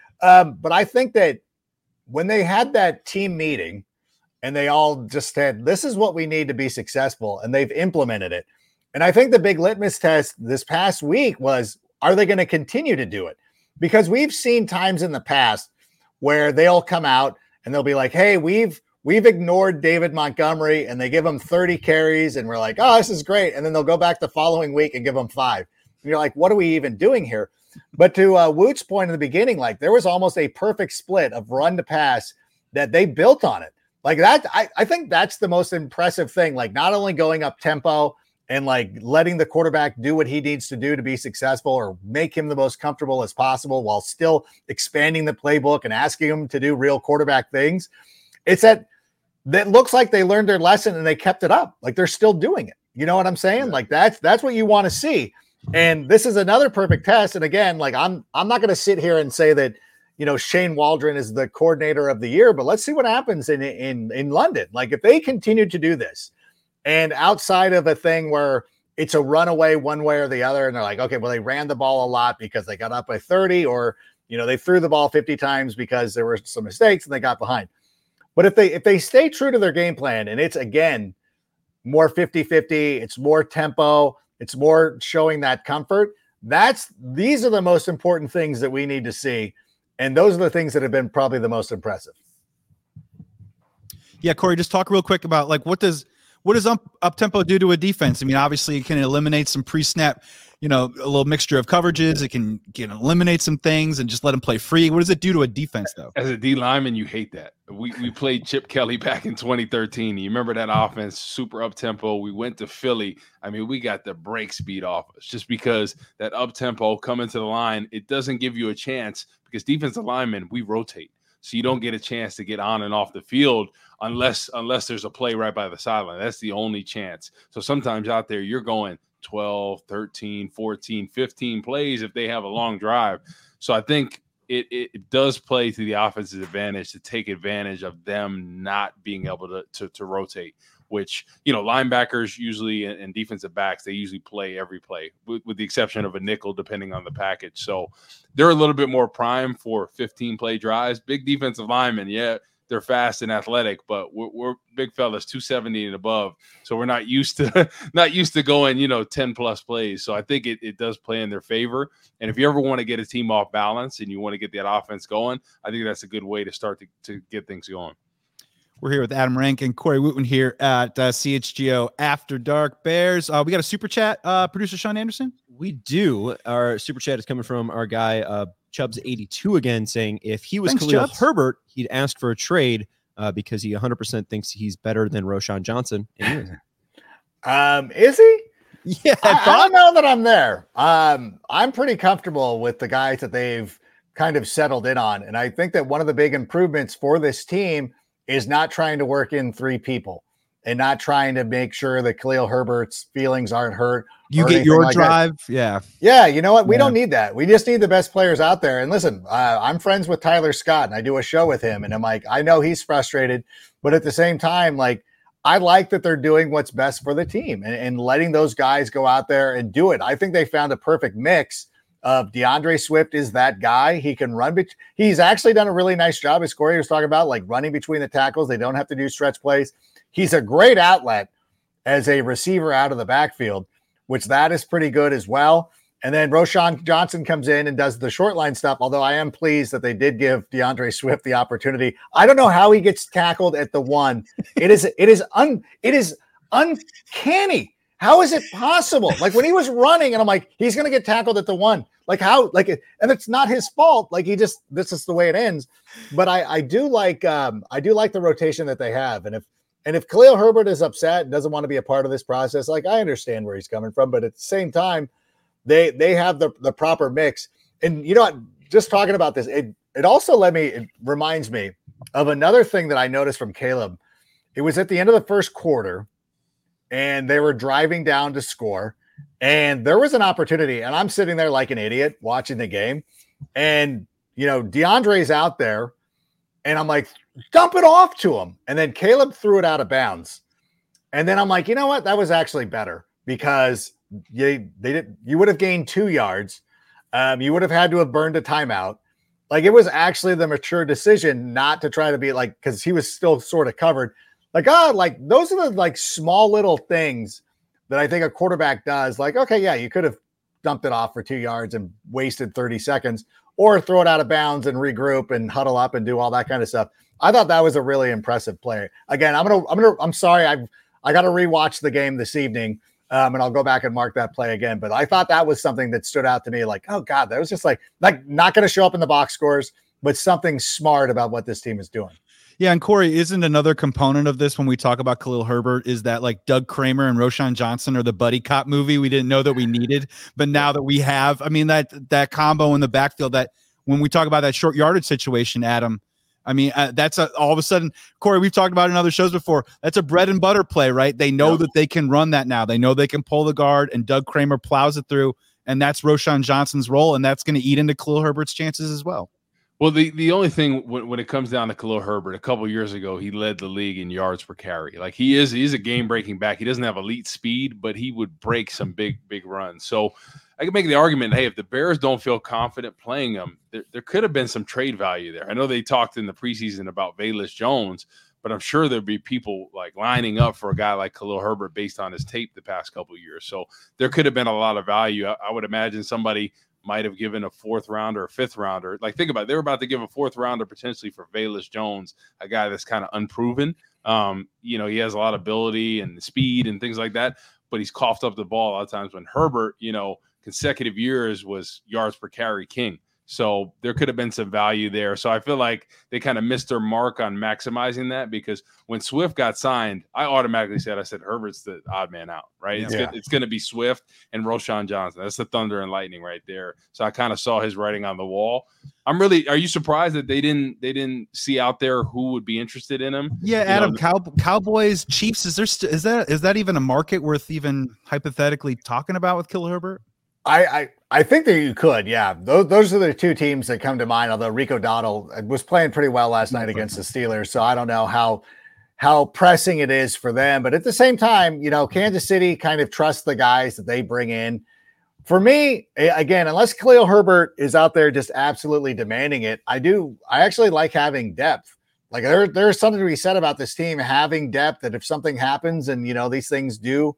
But I think that when they had that team meeting and they all just said, this is what we need to be successful. And they've implemented it. And I think the big litmus test this past week was, are they going to continue to do it? Because we've seen times in the past where they'll come out and they'll be like, hey, we've ignored David Montgomery, and they give him 30 carries, and we're like, oh, this is great. And then they'll go back the following week and give him 5. And you're like, what are we even doing here? But to Woot's point in the beginning, like there was almost a perfect split of run to pass that they built on it. Like that, I think that's the most impressive thing. Like not only going up tempo and like letting the quarterback do what he needs to do to be successful or make him the most comfortable as possible while still expanding the playbook and asking him to do real quarterback things. It's that looks like they learned their lesson and they kept it up. Like they're still doing it. You know what I'm saying? Yeah. Like that's what you want to see. And this is another perfect test. And again, like I'm not going to sit here and say that, Shane Waldron is the coordinator of the year, but let's see what happens in London. Like if they continue to do this, and outside of a thing where it's a runaway one way or the other, and they're like, okay, well, they ran the ball a lot because they got up by 30, or, they threw the ball 50 times because there were some mistakes and they got behind. But if they stay true to their game plan, and it's, again, more 50-50, it's more tempo, it's more showing that comfort, these are the most important things that we need to see. And those are the things that have been probably the most impressive. Yeah, Corey, just talk real quick about like what does up tempo do to a defense? I mean, obviously it can eliminate some pre-snap, a little mixture of coverages. It can eliminate some things and just let them play free. What does it do to a defense though? As a D lineman, you hate that. We played Chip Kelly back in 2013. You remember that offense, super up tempo. We went to Philly. I mean, we got the brakes beat off us just because that up tempo coming to the line, it doesn't give you a chance because defensive linemen, we rotate. So you don't get a chance to get on and off the field unless there's a play right by the sideline. That's the only chance. So sometimes out there you're going 12, 13, 14, 15 plays if they have a long drive. So I think it does play to the offense's advantage to take advantage of them not being able to rotate, which, linebackers usually and defensive backs, they usually play every play with the exception of a nickel, depending on the package. So they're a little bit more prime for 15-play drives. Big defensive linemen, yeah, they're fast and athletic, but we're big fellas, 270 and above. So we're not used to going, 10+ plays. So I think it does play in their favor. And if you ever want to get a team off balance and you want to get that offense going, I think that's a good way to start to get things going. We're here with Adam Rank and Corey Wootman here at CHGO After Dark Bears. We got a super chat, producer Sean Anderson. We do. Our super chat is coming from our guy Chubbs82 again, saying if he was Khalil Herbert, he'd ask for a trade because he 100% thinks he's better than Roschon Johnson. Is he? Yeah, I don't know that I'm there. I'm pretty comfortable with the guys that they've kind of settled in on, and I think that one of the big improvements for this team is not trying to work in 3 people and not trying to make sure that Khalil Herbert's feelings aren't hurt. You get your drive. Yeah. Yeah. You know what? We don't need that. We just need the best players out there. And listen, I'm friends with Tyler Scott and I do a show with him. And I'm like, I know he's frustrated, but at the same time, like, I like that they're doing what's best for the team and letting those guys go out there and do it. I think they found a perfect mix of DeAndre Swift is that guy. He can run. He's actually done a really nice job, as Corey was talking about, like running between the tackles. They don't have to do stretch plays. He's a great outlet as a receiver out of the backfield, which that is pretty good as well. And then Roschon Johnson comes in and does the short line stuff, although I am pleased that they did give DeAndre Swift the opportunity. I don't know how he gets tackled at the 1. It is uncanny. How is it possible? Like when he was running and I'm like, he's going to get tackled at the 1. Like how, like, and it's not his fault. Like this is the way it ends. But I do like the rotation that they have. And if Khalil Herbert is upset and doesn't want to be a part of this process, like I understand where he's coming from, but at the same time, they have the proper mix. And you know what, just talking about this, it also it reminds me of another thing that I noticed from Caleb. It was at the end of the first quarter and they were driving down to score and there was an opportunity and I'm sitting there like an idiot watching the game. And, you know, DeAndre's out there and I'm like, dump it off to him. And then Caleb threw it out of bounds. And then I'm like, you know what? That was actually better because you would have gained 2 yards. You would have had to have burned a timeout. Like it was actually the mature decision not to try to be like, because he was still sort of covered. Like, those are the like small little things that I think a quarterback does. Like, okay, yeah, you could have dumped it off for 2 yards and wasted 30 seconds or throw it out of bounds and regroup and huddle up and do all that kind of stuff. I thought that was a really impressive play. Again, I'm sorry. I got to rewatch the game this evening. And I'll go back and mark that play again. But I thought that was something that stood out to me. Like, oh God, that was just like not going to show up in the box scores, but something smart about what this team is doing. Yeah, and Corey, isn't another component of this when we talk about Khalil Herbert is that like Doug Kramer and Roschon Johnson are the buddy cop movie we didn't know that we needed, but now that we have, I mean, that combo in the backfield, that when we talk about that short yardage situation, Adam, I mean, that's all of a sudden, Corey, we've talked about it in other shows before. That's a bread and butter play, right? They know that they can run that now. They know they can pull the guard, and Doug Kramer plows it through, and that's Roschon Johnson's role, and that's going to eat into Khalil Herbert's chances as well. Well, the only thing when it comes down to Khalil Herbert, a couple of years ago, he led the league in yards per carry. Like he's a game-breaking back. He doesn't have elite speed, but he would break some big runs. So I can make the argument, hey, if the Bears don't feel confident playing him, there could have been some trade value there. I know they talked in the preseason about Velus Jones, but I'm sure there'd be people like lining up for a guy like Khalil Herbert based on his tape the past couple of years. So there could have been a lot of value. I would imagine somebody might have given a 4th rounder or 5th rounder. Like, think about it. They were about to give a 4th rounder potentially for Velus Jones, a guy that's kind of unproven. He has a lot of ability and speed and things like that, but he's coughed up the ball a lot of times when Herbert, consecutive years was yards per carry king. So there could have been some value there. So I feel like they kind of missed their mark on maximizing that, because when Swift got signed, I automatically said Herbert's the odd man out, right? It's going to be Swift and Roschon Johnson. That's the thunder and lightning right there. So I kind of saw his writing on the wall. Are you surprised that they didn't see out there who would be interested in him? Yeah, Adam, Cowboys, Chiefs, is that even a market worth even hypothetically talking about with Khalil Herbert? I think that you could, yeah. Those are the 2 teams that come to mind, although Rico Dowdle was playing pretty well last night against the Steelers, so I don't know how pressing it is for them. But at the same time, Kansas City kind of trusts the guys that they bring in. For me, again, unless Khalil Herbert is out there just absolutely demanding it, I actually like having depth. Like there's something to be said about this team having depth, that if something happens and, these things do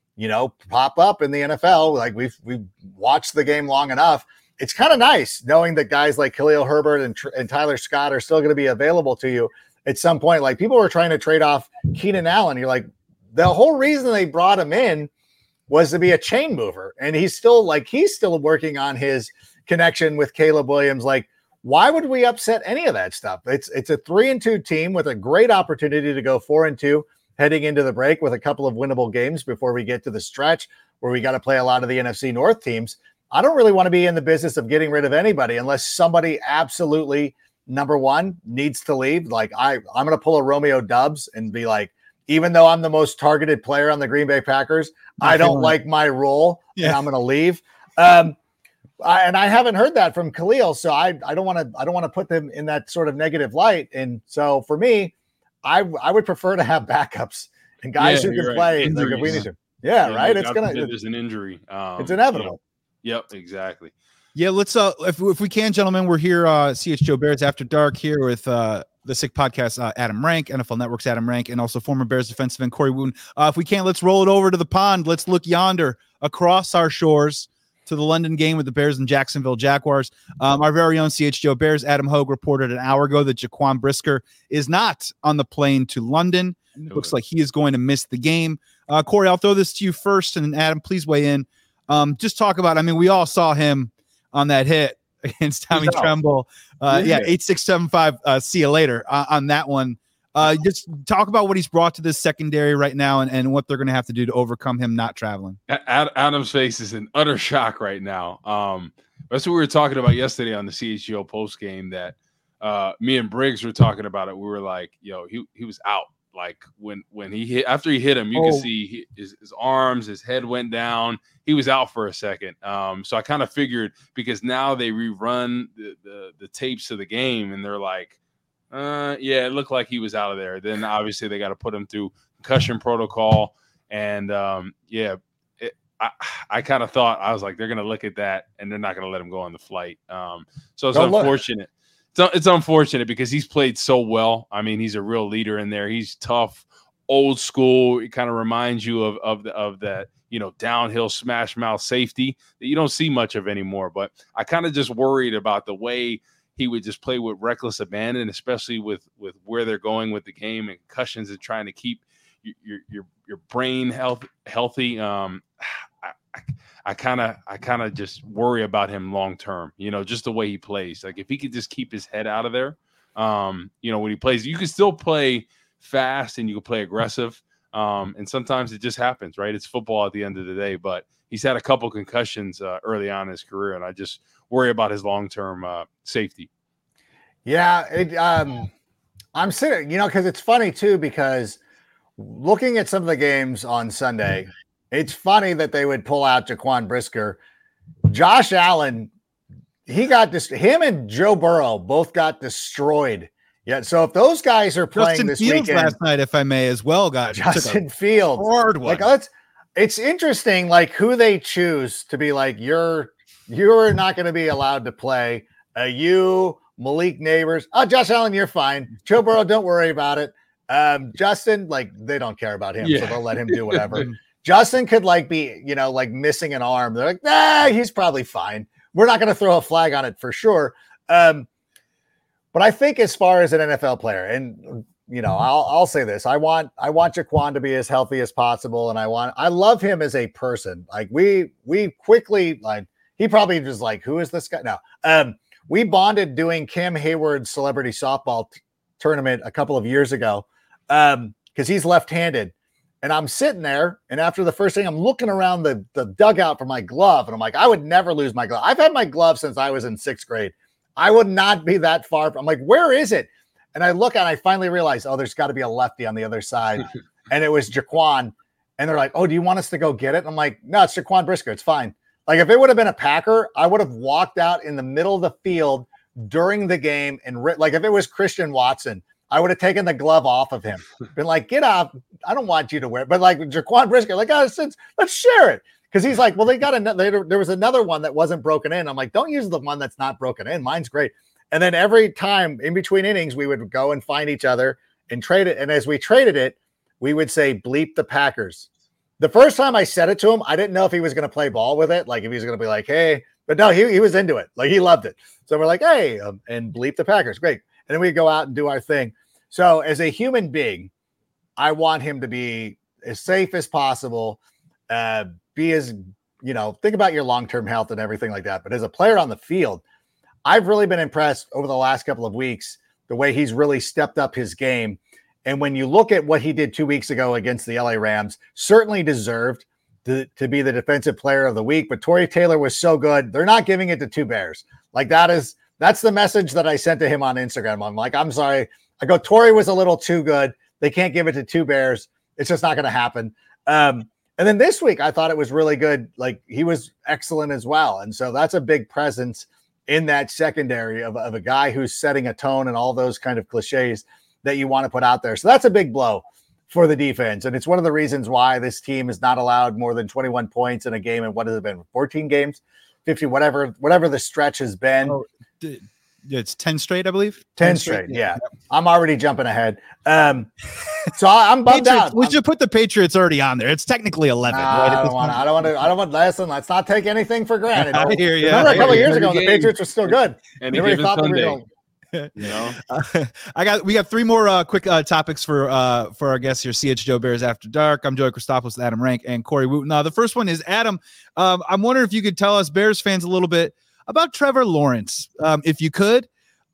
pop up in the NFL, like we've watched the game long enough. It's kind of nice knowing that guys like Khalil Herbert and Tyler Scott are still going to be available to you at some point. Like people were trying to trade off Keenan Allen. You're like, the whole reason they brought him in was to be a chain mover. And he's still working on his connection with Caleb Williams. Like, why would we upset any of that stuff? It's a 3-2 team with a great opportunity to go 4-2. Heading into the break with a couple of winnable games before we get to the stretch where we got to play a lot of the NFC North teams. I don't really want to be in the business of getting rid of anybody unless somebody absolutely number one, needs to leave. Like I'm going to pull a Romeo Dubs and be like, even though I'm the most targeted player on the Green Bay Packers, I don't like my role and I'm going to leave. And I haven't heard that from Khalil. So I don't want to put them in that sort of negative light. And so for me, I would prefer to have backups and guys who can play. Like if we need to. Yeah, right. There's an injury. It's inevitable. Yep, exactly. Yeah, let's if we can, gentlemen, we're here, CHGO Bears After Dark here with the Sick Podcast, Adam Rank, NFL Network's Adam Rank, and also former Bears defensive end Corey Wooten. If we can, let's roll it over to the pond. Let's look yonder across our shores to the London game with the Bears and Jacksonville Jaguars. Our very own CHGO Bears, Adam Hogue, reported an hour ago that Jaquan Brisker is not on the plane to London. Looks like he is going to miss the game. Corey, I'll throw this to you first, and Adam, please weigh in. Just talk about, I mean, we all saw him on that hit against Tommy Tremble. 8-6-7-5. See you later on that one. Just talk about what he's brought to this secondary right now and what they're going to have to do to overcome him not traveling. Adam's face is in utter shock right now. That's what we were talking about yesterday on the CHGO post game that me and Briggs were talking about it. We were like, yo, he was out. Like when he hit, after he hit him, you could see his arms, his head went down. He was out for a second. So I kind of figured, because now they rerun the tapes of the game and they're like, yeah, it looked like he was out of there. Then obviously they got to put him through concussion protocol. And I kind of thought, I was like, they're going to look at that and they're not going to let him go on the flight. So it's unfortunate. It's unfortunate because he's played so well. I mean, he's a real leader in there. He's tough, old school. It kind of reminds you of that, downhill smash mouth safety that you don't see much of anymore. But I kind of just worried about the way he would just play with reckless abandon, especially with where they're going with the game and concussions and trying to keep your brain healthy. I kind of just worry about him long term, just the way he plays. Like if he could just keep his head out of there, when he plays, you can still play fast and you can play aggressive. And sometimes it just happens, right? It's football at the end of the day, but he's had a couple concussions early on in his career. And I just worry about his long-term safety. Yeah. I'm sitting, cause it's funny too, because looking at some of the games on Sunday, it's funny that they would pull out Jaquan Brisker. Josh Allen, him and Joe Burrow both got destroyed. Yeah, so if those guys are playing Justin this Fields weekend, last night, if I may, as well, guys. Justin Fields, hard one. Like it's interesting, like who they choose to be like you're not going to be allowed to play. You, Malik Neighbors, Josh Allen, you're fine. Joe Burrow, don't worry about it. Justin, like they don't care about him, so they'll let him do whatever. Justin could be, missing an arm. They're like, he's probably fine. We're not going to throw a flag on it for sure. But I think as far as an NFL player, and I'll say this: I want Jaquan to be as healthy as possible, and I love him as a person. Like we quickly, like he probably just like, who is this guy? No, we bonded doing Cam Hayward's celebrity softball tournament a couple of years ago because he's left-handed. And I'm sitting there, and after the first thing, I'm looking around the dugout for my glove, and I'm like, I would never lose my glove. I've had my glove since I was in 6th grade. I would not be that far. I'm like, where is it? And I look and I finally realize, there's got to be a lefty on the other side. And it was Jaquan. And they're like, do you want us to go get it? And I'm like, no, it's Jaquan Brisker. It's fine. Like if it would have been a Packer, I would have walked out in the middle of the field during the game and like if it was Christian Watson, I would have taken the glove off of him. Been like, get off. I don't want you to wear it. But like Jaquan Brisker, like, let's share it. Because he's like, well, they got another. There was another one that wasn't broken in. I'm like, don't use the one that's not broken in. Mine's great. And then every time in between innings, we would go and find each other and trade it. And as we traded it, we would say, bleep the Packers. The first time I said it to him, I didn't know if he was going to play ball with it. Like if he was going to be like, hey, but no, he was into it. Like he loved it. So we're like, hey, and bleep the Packers. Great. And then we go out and do our thing. So as a human being, I want him to be as safe as possible, be as, think about your long-term health and everything like that. But as a player on the field, I've really been impressed over the last couple of weeks, the way he's really stepped up his game. And when you look at what he did 2 weeks ago against the LA Rams, certainly deserved to be the defensive player of the week. But Torrey Taylor was so good. They're not giving it to two Bears. Like that is That's the message that I sent to him on Instagram. I'm like, I'm sorry. I go, Torrey was a little too good. They can't give it to two Bears. It's just not going to happen. And then this week, I thought it was really good. Like, he was excellent as well. And so that's a big presence in that secondary of a guy who's setting a tone and all those kind of cliches that you want to put out there. So that's a big blow for the defense. And it's one of the reasons why this team is not allowed more than 21 points in a game. And what has it been? 14 games, 50, whatever the stretch has been. Oh, it's 10 straight, I believe. 10 straight. Yeah. I'm already jumping ahead. So I'm bummed out. We should put the Patriots already on there. It's technically 11. I don't want to listen. Let's not take anything for granted. I hear you. Remember a couple of years ago, the Patriots were still good. Everybody thought Sunday. You know, we got three more quick topics for our guests here. CHGO Bears After Dark. I'm Joey Christopoulos, Adam Rank, and Corey Wooten. The first one is Adam. I'm wondering if you could tell us Bears fans a little bit about Trevor Lawrence, if you could.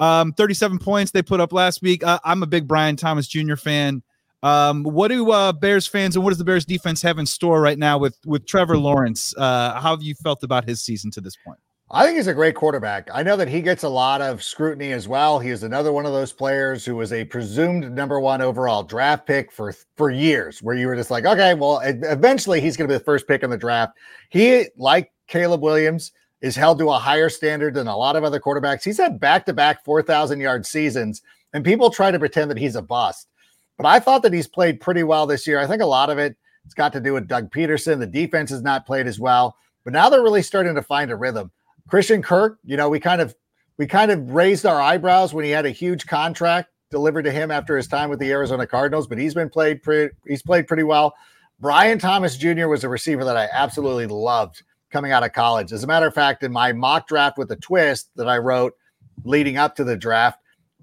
37 points they put up last week. I'm a big Brian Thomas Jr. fan. What do Bears fans and what does the Bears defense have in store right now with Trevor Lawrence? How have you felt about his season to this point? I think he's a great quarterback. I know that he gets a lot of scrutiny as well. He is another one of those players who was a presumed number one overall draft pick for years, where you were just like, okay, well, eventually he's going to be the first pick in the draft. He, like Caleb Williams, is held to a higher standard than a lot of other quarterbacks. He's had back-to-back 4,000-yard seasons, and people try to pretend that he's a bust. But I thought that he's played pretty well this year. I think a lot of it's got to do with Doug Peterson. The defense has not played as well, but now they're really starting to find a rhythm. Christian Kirk, we kind of raised our eyebrows when he had a huge contract delivered to him after his time with the Arizona Cardinals, but he's played pretty well. Brian Thomas Jr. was a receiver that I absolutely loved coming out of college. As a matter of fact, in my mock draft with a twist that I wrote leading up to the draft,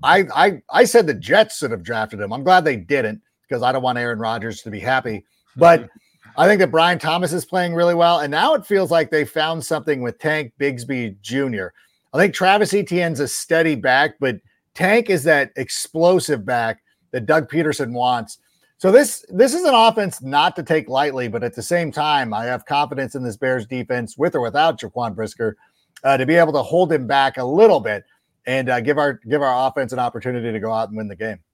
I said the Jets should have drafted him. I'm glad they didn't, because I don't want Aaron Rodgers to be happy. But I think that Brian Thomas is playing really well. And now it feels like they found something with Tank Bigsby Jr. I think Travis Etienne's a steady back, but Tank is that explosive back that Doug Peterson wants. So this is an offense not to take lightly, but at the same time, I have confidence in this Bears defense, with or without Jaquan Brisker, to be able to hold him back a little bit and give our offense an opportunity to go out and win the game.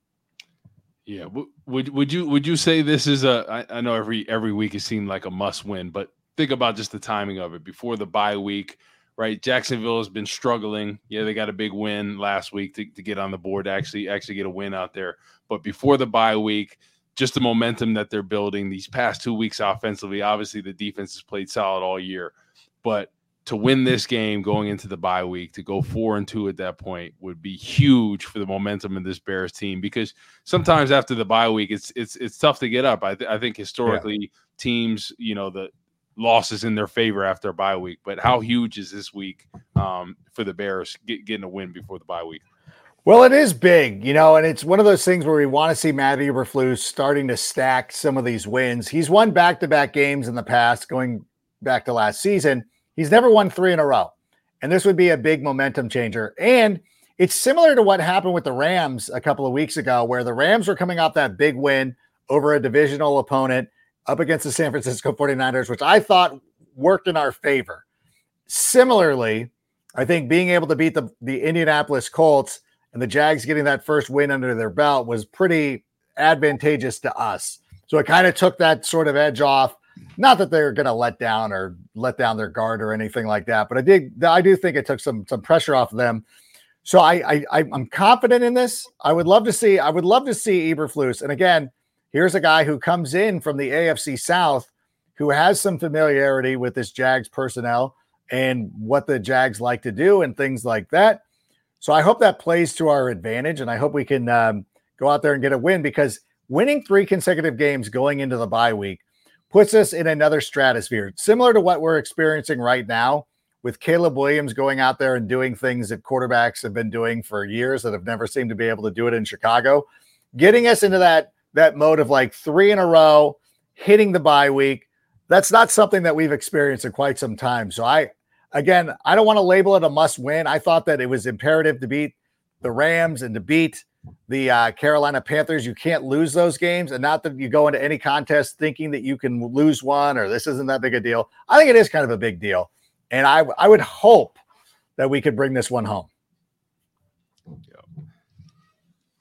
Yeah. Would you say this is I know every week it seemed like a must win, but think about just the timing of it before the bye week, right? Jacksonville has been struggling. Yeah, they got a big win last week to get on the board, to actually get a win out there. But before the bye week, just the momentum that they're building these past 2 weeks offensively, obviously the defense has played solid all year, but to win this game going into the bye week, to go 4-2 at that point would be huge for the momentum in this Bears team, because sometimes after the bye week, it's tough to get up. I think historically teams, the losses in their favor after a bye week, but how huge is this week for the Bears getting a win before the bye week? Well, it is big, and it's one of those things where we want to see Matt Eberflus starting to stack some of these wins. He's won back-to-back games in the past, going back to last season. He's never won 3 in a row, and this would be a big momentum changer. And it's similar to what happened with the Rams a couple of weeks ago, where the Rams were coming off that big win over a divisional opponent up against the San Francisco 49ers, which I thought worked in our favor. Similarly, I think being able to beat the Indianapolis Colts and the Jags getting that first win under their belt was pretty advantageous to us. So it kind of took that sort of edge off. Not that they're going to let down their guard or anything like that, but I do think it took some pressure off of them. So I'm confident in this. I would love to see Eberflus. And again, here's a guy who comes in from the AFC South, who has some familiarity with this Jags personnel and what the Jags like to do and things like that. So I hope that plays to our advantage, and I hope we can go out there and get a win, because winning 3 consecutive games going into the bye week puts us in another stratosphere, similar to what we're experiencing right now with Caleb Williams going out there and doing things that quarterbacks have been doing for years that have never seemed to be able to do it in Chicago, getting us into that mode of like 3 in a row, hitting the bye week. That's not something that we've experienced in quite some time. So I don't want to label it a must win. I thought that it was imperative to beat the Rams and to beat the Carolina Panthers. You can't lose those games, and not that you go into any contest thinking that you can lose one or this isn't that big a deal. I think it is kind of a big deal, and I would hope that we could bring this one home.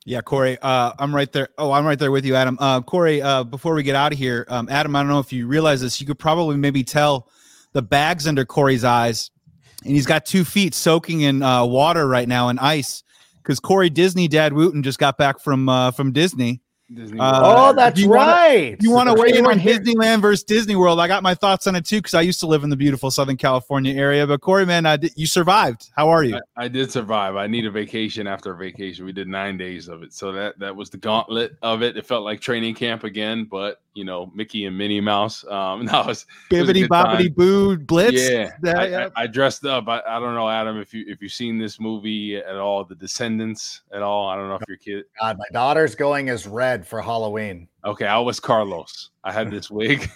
Yeah, Corey, I'm right there. Oh, I'm right there with you, Adam. Corey, before we get out of here, Adam, I don't know if you realize this. You could probably maybe tell the bags under Corey's eyes, and he's got 2 feet soaking in water right now and ice because Corey Disney Dad Wooten just got back from Disney. Oh, that's right. You want to weigh in on Disneyland versus Disney World? I got my thoughts on it too because I used to live in the beautiful Southern California area. But Corey, man, you survived. How are you? I did survive. I need a vacation after a vacation. We did 9 days of it, so that was the gauntlet of it. It felt like training camp again, but Mickey and Minnie Mouse. Bibbidi Bobbidi Boo Blitz. Yeah, I dressed up. I don't know, Adam, if you've seen this movie at all, The Descendants at all. I don't know if your kid. God, my daughter's going as Red for Halloween. Okay, I was Carlos. I had this wig.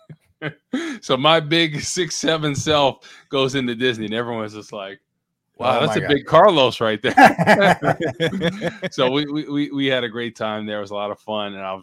So my big 6'7" self goes into Disney, and everyone's just like, wow, that's a big Carlos right there. So we had a great time there. It was a lot of fun, and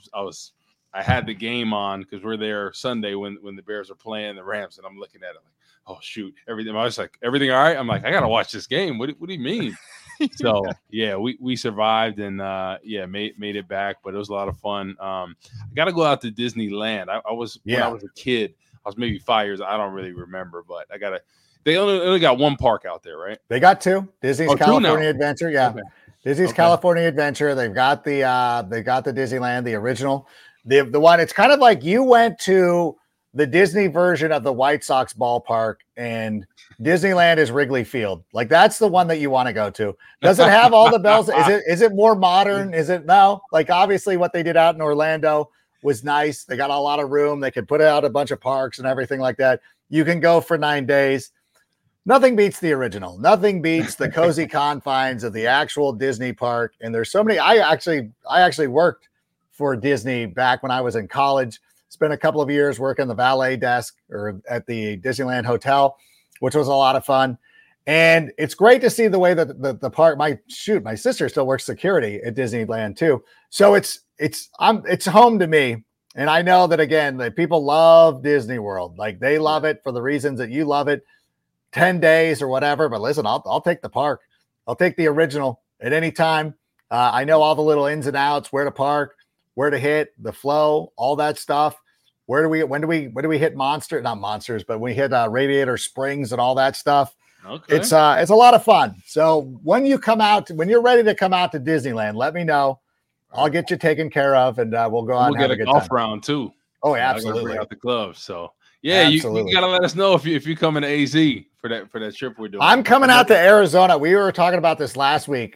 I had the game on because we're there Sunday when the Bears are playing the Rams, and I'm looking at it like, oh shoot, everything. I was like, everything all right? I'm like, I gotta watch this game. What do you mean? So yeah, we survived and made it back, but it was a lot of fun. I got to go out to Disneyland. When I was a kid, I was maybe 5 years. I don't really remember, but they only got one park out there, right? They got 2. Disney's California Adventure. Yeah. Okay. Disney's California Adventure. They've got the Disneyland, the original, the one. It's kind of like you went to the Disney version of the White Sox ballpark, and Disneyland is Wrigley Field. Like that's the one that you want to go to. Does it have all the bells? Is it more modern? Is it no? Like obviously what they did out in Orlando was nice. They got a lot of room. They could put out a bunch of parks and everything like that. You can go for 9 days. Nothing beats the original. Nothing beats the cozy confines of the actual Disney park. And there's so many. I actually worked for Disney back when I was in college. Spent a couple of years working the valet desk or at the Disneyland Hotel, which was a lot of fun. And it's great to see the way that the park, my sister still works security at Disneyland too. So it's home to me. And I know that again, that people love Disney World. Like they love it for the reasons that you love it. 10 days or whatever. But listen, I'll take the park. I'll take the original at any time. I know all the little ins and outs, where to park, where to hit, the flow, all that stuff. When do we hit not monsters, but we hit Radiator Springs and all that stuff. Okay. It's a lot of fun. So when you're ready to come out to Disneyland, let me know. I'll get you taken care of, and we'll go out and have a good golf time. Round too. Oh, yeah, absolutely. Out the club. So yeah, you gotta let us know if you come in AZ for that trip we're doing. I'm coming out to Arizona. We were talking about this last week.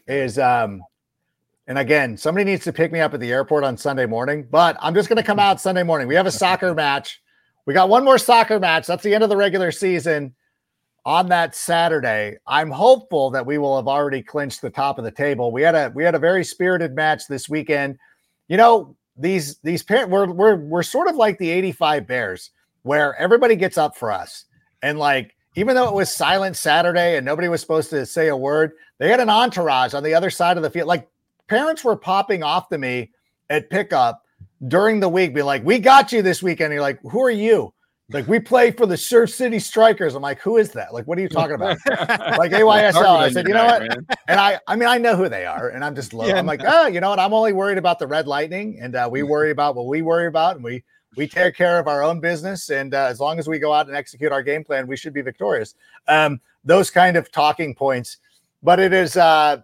And again, somebody needs to pick me up at the airport on Sunday morning, but I'm just going to come out Sunday morning. We have a soccer match. We got one more soccer match. That's the end of the regular season on that Saturday. I'm hopeful that we will have already clinched the top of the table. We had a very spirited match this weekend. These parents, we're sort of like the 85 Bears where everybody gets up for us. And like, even though it was silent Saturday and nobody was supposed to say a word, they had an entourage on the other side of the field. Like, parents were popping off to me at pickup during the week, being like, we got you this weekend. And you're like, who are you? Like, we play for the Surf City Strikers. I'm like, who is that? Like, what are you talking about? Like AYSL. I said, you know what? Man. And I know who they are. And I'm just low. Yeah, I'm like, you know what? I'm only worried about the Red Lightning. And we worry about what we worry about. And we take care of our own business. And as long as we go out and execute our game plan, we should be victorious. Those kind of talking points. But it is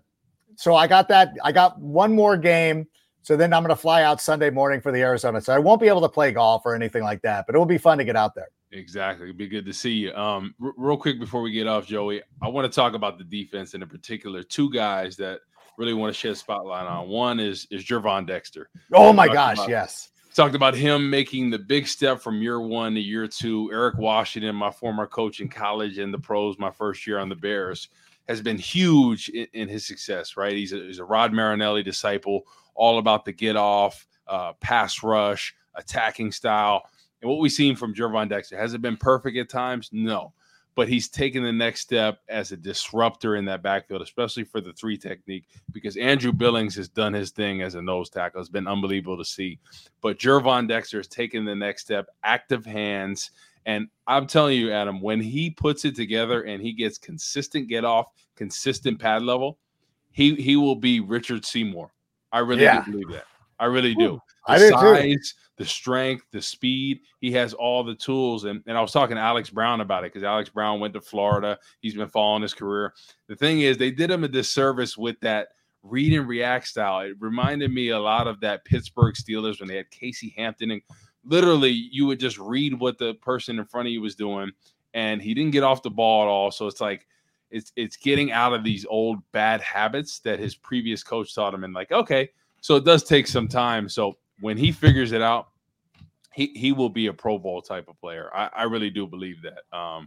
so I got that. I got one more game. So then I'm going to fly out Sunday morning for the Arizona. So I won't be able to play golf or anything like that, but it will be fun to get out there. Exactly. It'd be good to see you. Real quick before we get off, Joey, I want to talk about the defense and in particular 2 guys that really want to shed a spotlight on. One is Gervon Dexter. Oh my gosh. Yes. Talked about him making the big step from year 1 to year 2. Eric Washington, my former coach in college and the pros, my first year on the Bears, has been huge in his success, right? He's a Rod Marinelli disciple, all about the get off, pass rush, attacking style. And what we've seen from Gervon Dexter, has it been perfect at times? No. But he's taken the next step as a disruptor in that backfield, especially for the 3 technique, because Andrew Billings has done his thing as a nose tackle. It's been unbelievable to see. But Gervon Dexter has taken the next step, active hands. And I'm telling you, Adam, when he puts it together and he gets consistent get off, consistent pad level, he will be Richard Seymour. I really do believe that. I really do. The I do size, the strength, the speed. He has all the tools. And I was talking to Alex Brown about it because Alex Brown went to Florida. He's been following his career. The thing is, they did him a disservice with that read and react style. It reminded me a lot of that Pittsburgh Steelers when they had Casey Hampton. And literally, you would just read what the person in front of you was doing. And he didn't get off the ball at all. So it's like, it's getting out of these old bad habits that his previous coach taught him. And like, okay, so it does take some time. So when he figures it out, he will be a Pro Bowl type of player. I really do believe that.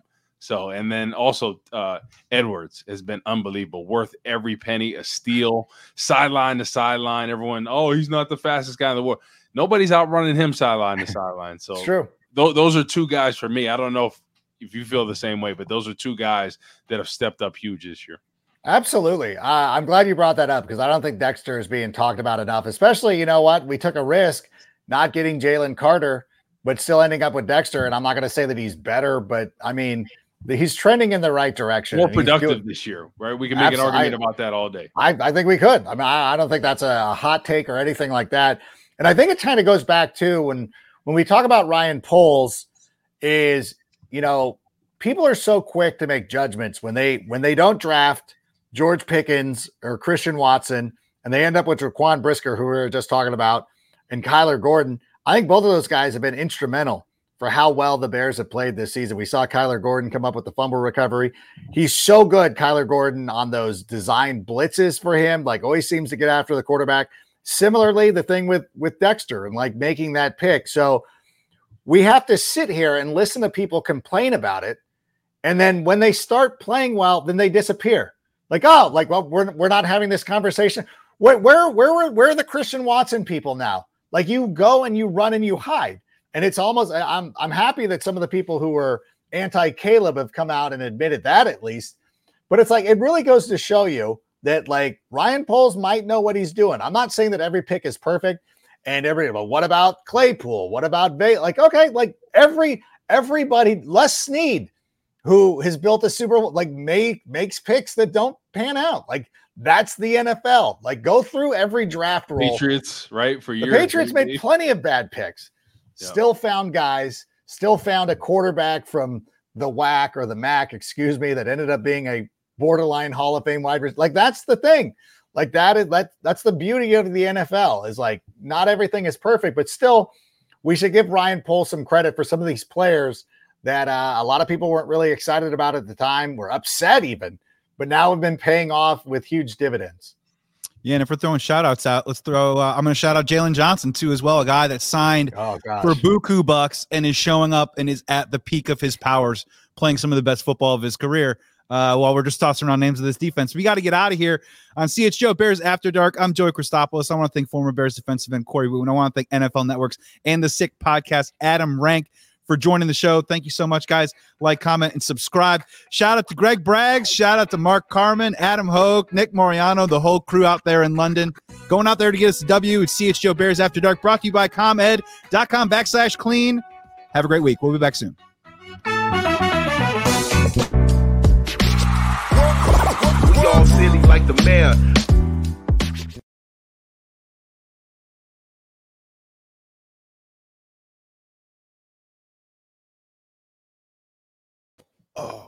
And then also Edwards has been unbelievable, worth every penny, a steal, sideline to sideline. Everyone, he's not the fastest guy in the world. Nobody's outrunning him sideline to sideline. So it's true. Those are two guys for me. I don't know if you feel the same way, but those are two guys that have stepped up huge this year. Absolutely. I'm glad you brought that up because I don't think Dexter is being talked about enough, especially, you know what? We took a risk not getting Jalen Carter, but still ending up with Dexter. And I'm not going to say that he's better, but I mean, he's trending in the right direction. More productive this year, right? We can make an argument about that all day. I think we could. I mean, I don't think that's a hot take or anything like that. And I think it kind of goes back to when we talk about Ryan Poles is, you know, people are so quick to make judgments when they don't draft George Pickens or Christian Watson, and they end up with Raquan Brisker, who we were just talking about, and Kyler Gordon. I think both of those guys have been instrumental for how well the Bears have played this season. We saw Kyler Gordon come up with the fumble recovery. He's so good, Kyler Gordon, on those design blitzes for him, like always seems to get after the quarterback. Similarly, the thing with Dexter and like making that pick. So we have to sit here and listen to people complain about it. And then when they start playing well, then they disappear. Well, we're not having this conversation. Where are the Christian Watson people now? Like, you go and you run and you hide. And it's almost, I'm happy that some of the people who were anti-Caleb have come out and admitted that at least. But it's like, it really goes to show you that like Ryan Poles might know what he's doing. I'm not saying that every pick is perfect and but what about Claypool? What about everybody, Les Snead, who has built a Super Bowl, makes picks that don't pan out. Like, that's the NFL. Like, go through every draft roll. Patriots, right? For years. The Patriots made plenty of bad picks. Yeah. Still found guys, still found a quarterback from the WAC or the MAC, that ended up being a borderline Hall of Fame wide receiver. Like, that's the thing. Like, that's the beauty of the NFL is like, not everything is perfect, but still we should give Ryan Poles some credit for some of these players that a lot of people weren't really excited about at the time, were upset even, but now have been paying off with huge dividends. Yeah, and if we're throwing shout-outs out, let's throw I'm going to shout out Jalen Johnson, too, as well, a guy that signed for buku bucks and is showing up and is at the peak of his powers, playing some of the best football of his career. While we're just tossing around names of this defense, we got to get out of here on CHGO Bears After Dark. I'm Joey Christopoulos. I want to thank former Bears defensive end Corey Woon. I want to thank NFL Networks and the Sick Podcast, Adam Rank, for joining the show. Thank you so much, guys. Like, comment, and subscribe. Shout out to Greg Braggs. Shout out to Mark Carman, Adam Hogue, Nick Moriano, the whole crew out there in London. Going out there to get us a W. It's CHGO Bears After Dark, brought to you by ComEd.com/clean. Have a great week. We'll be back soon. We all silly like the mayor. Oh.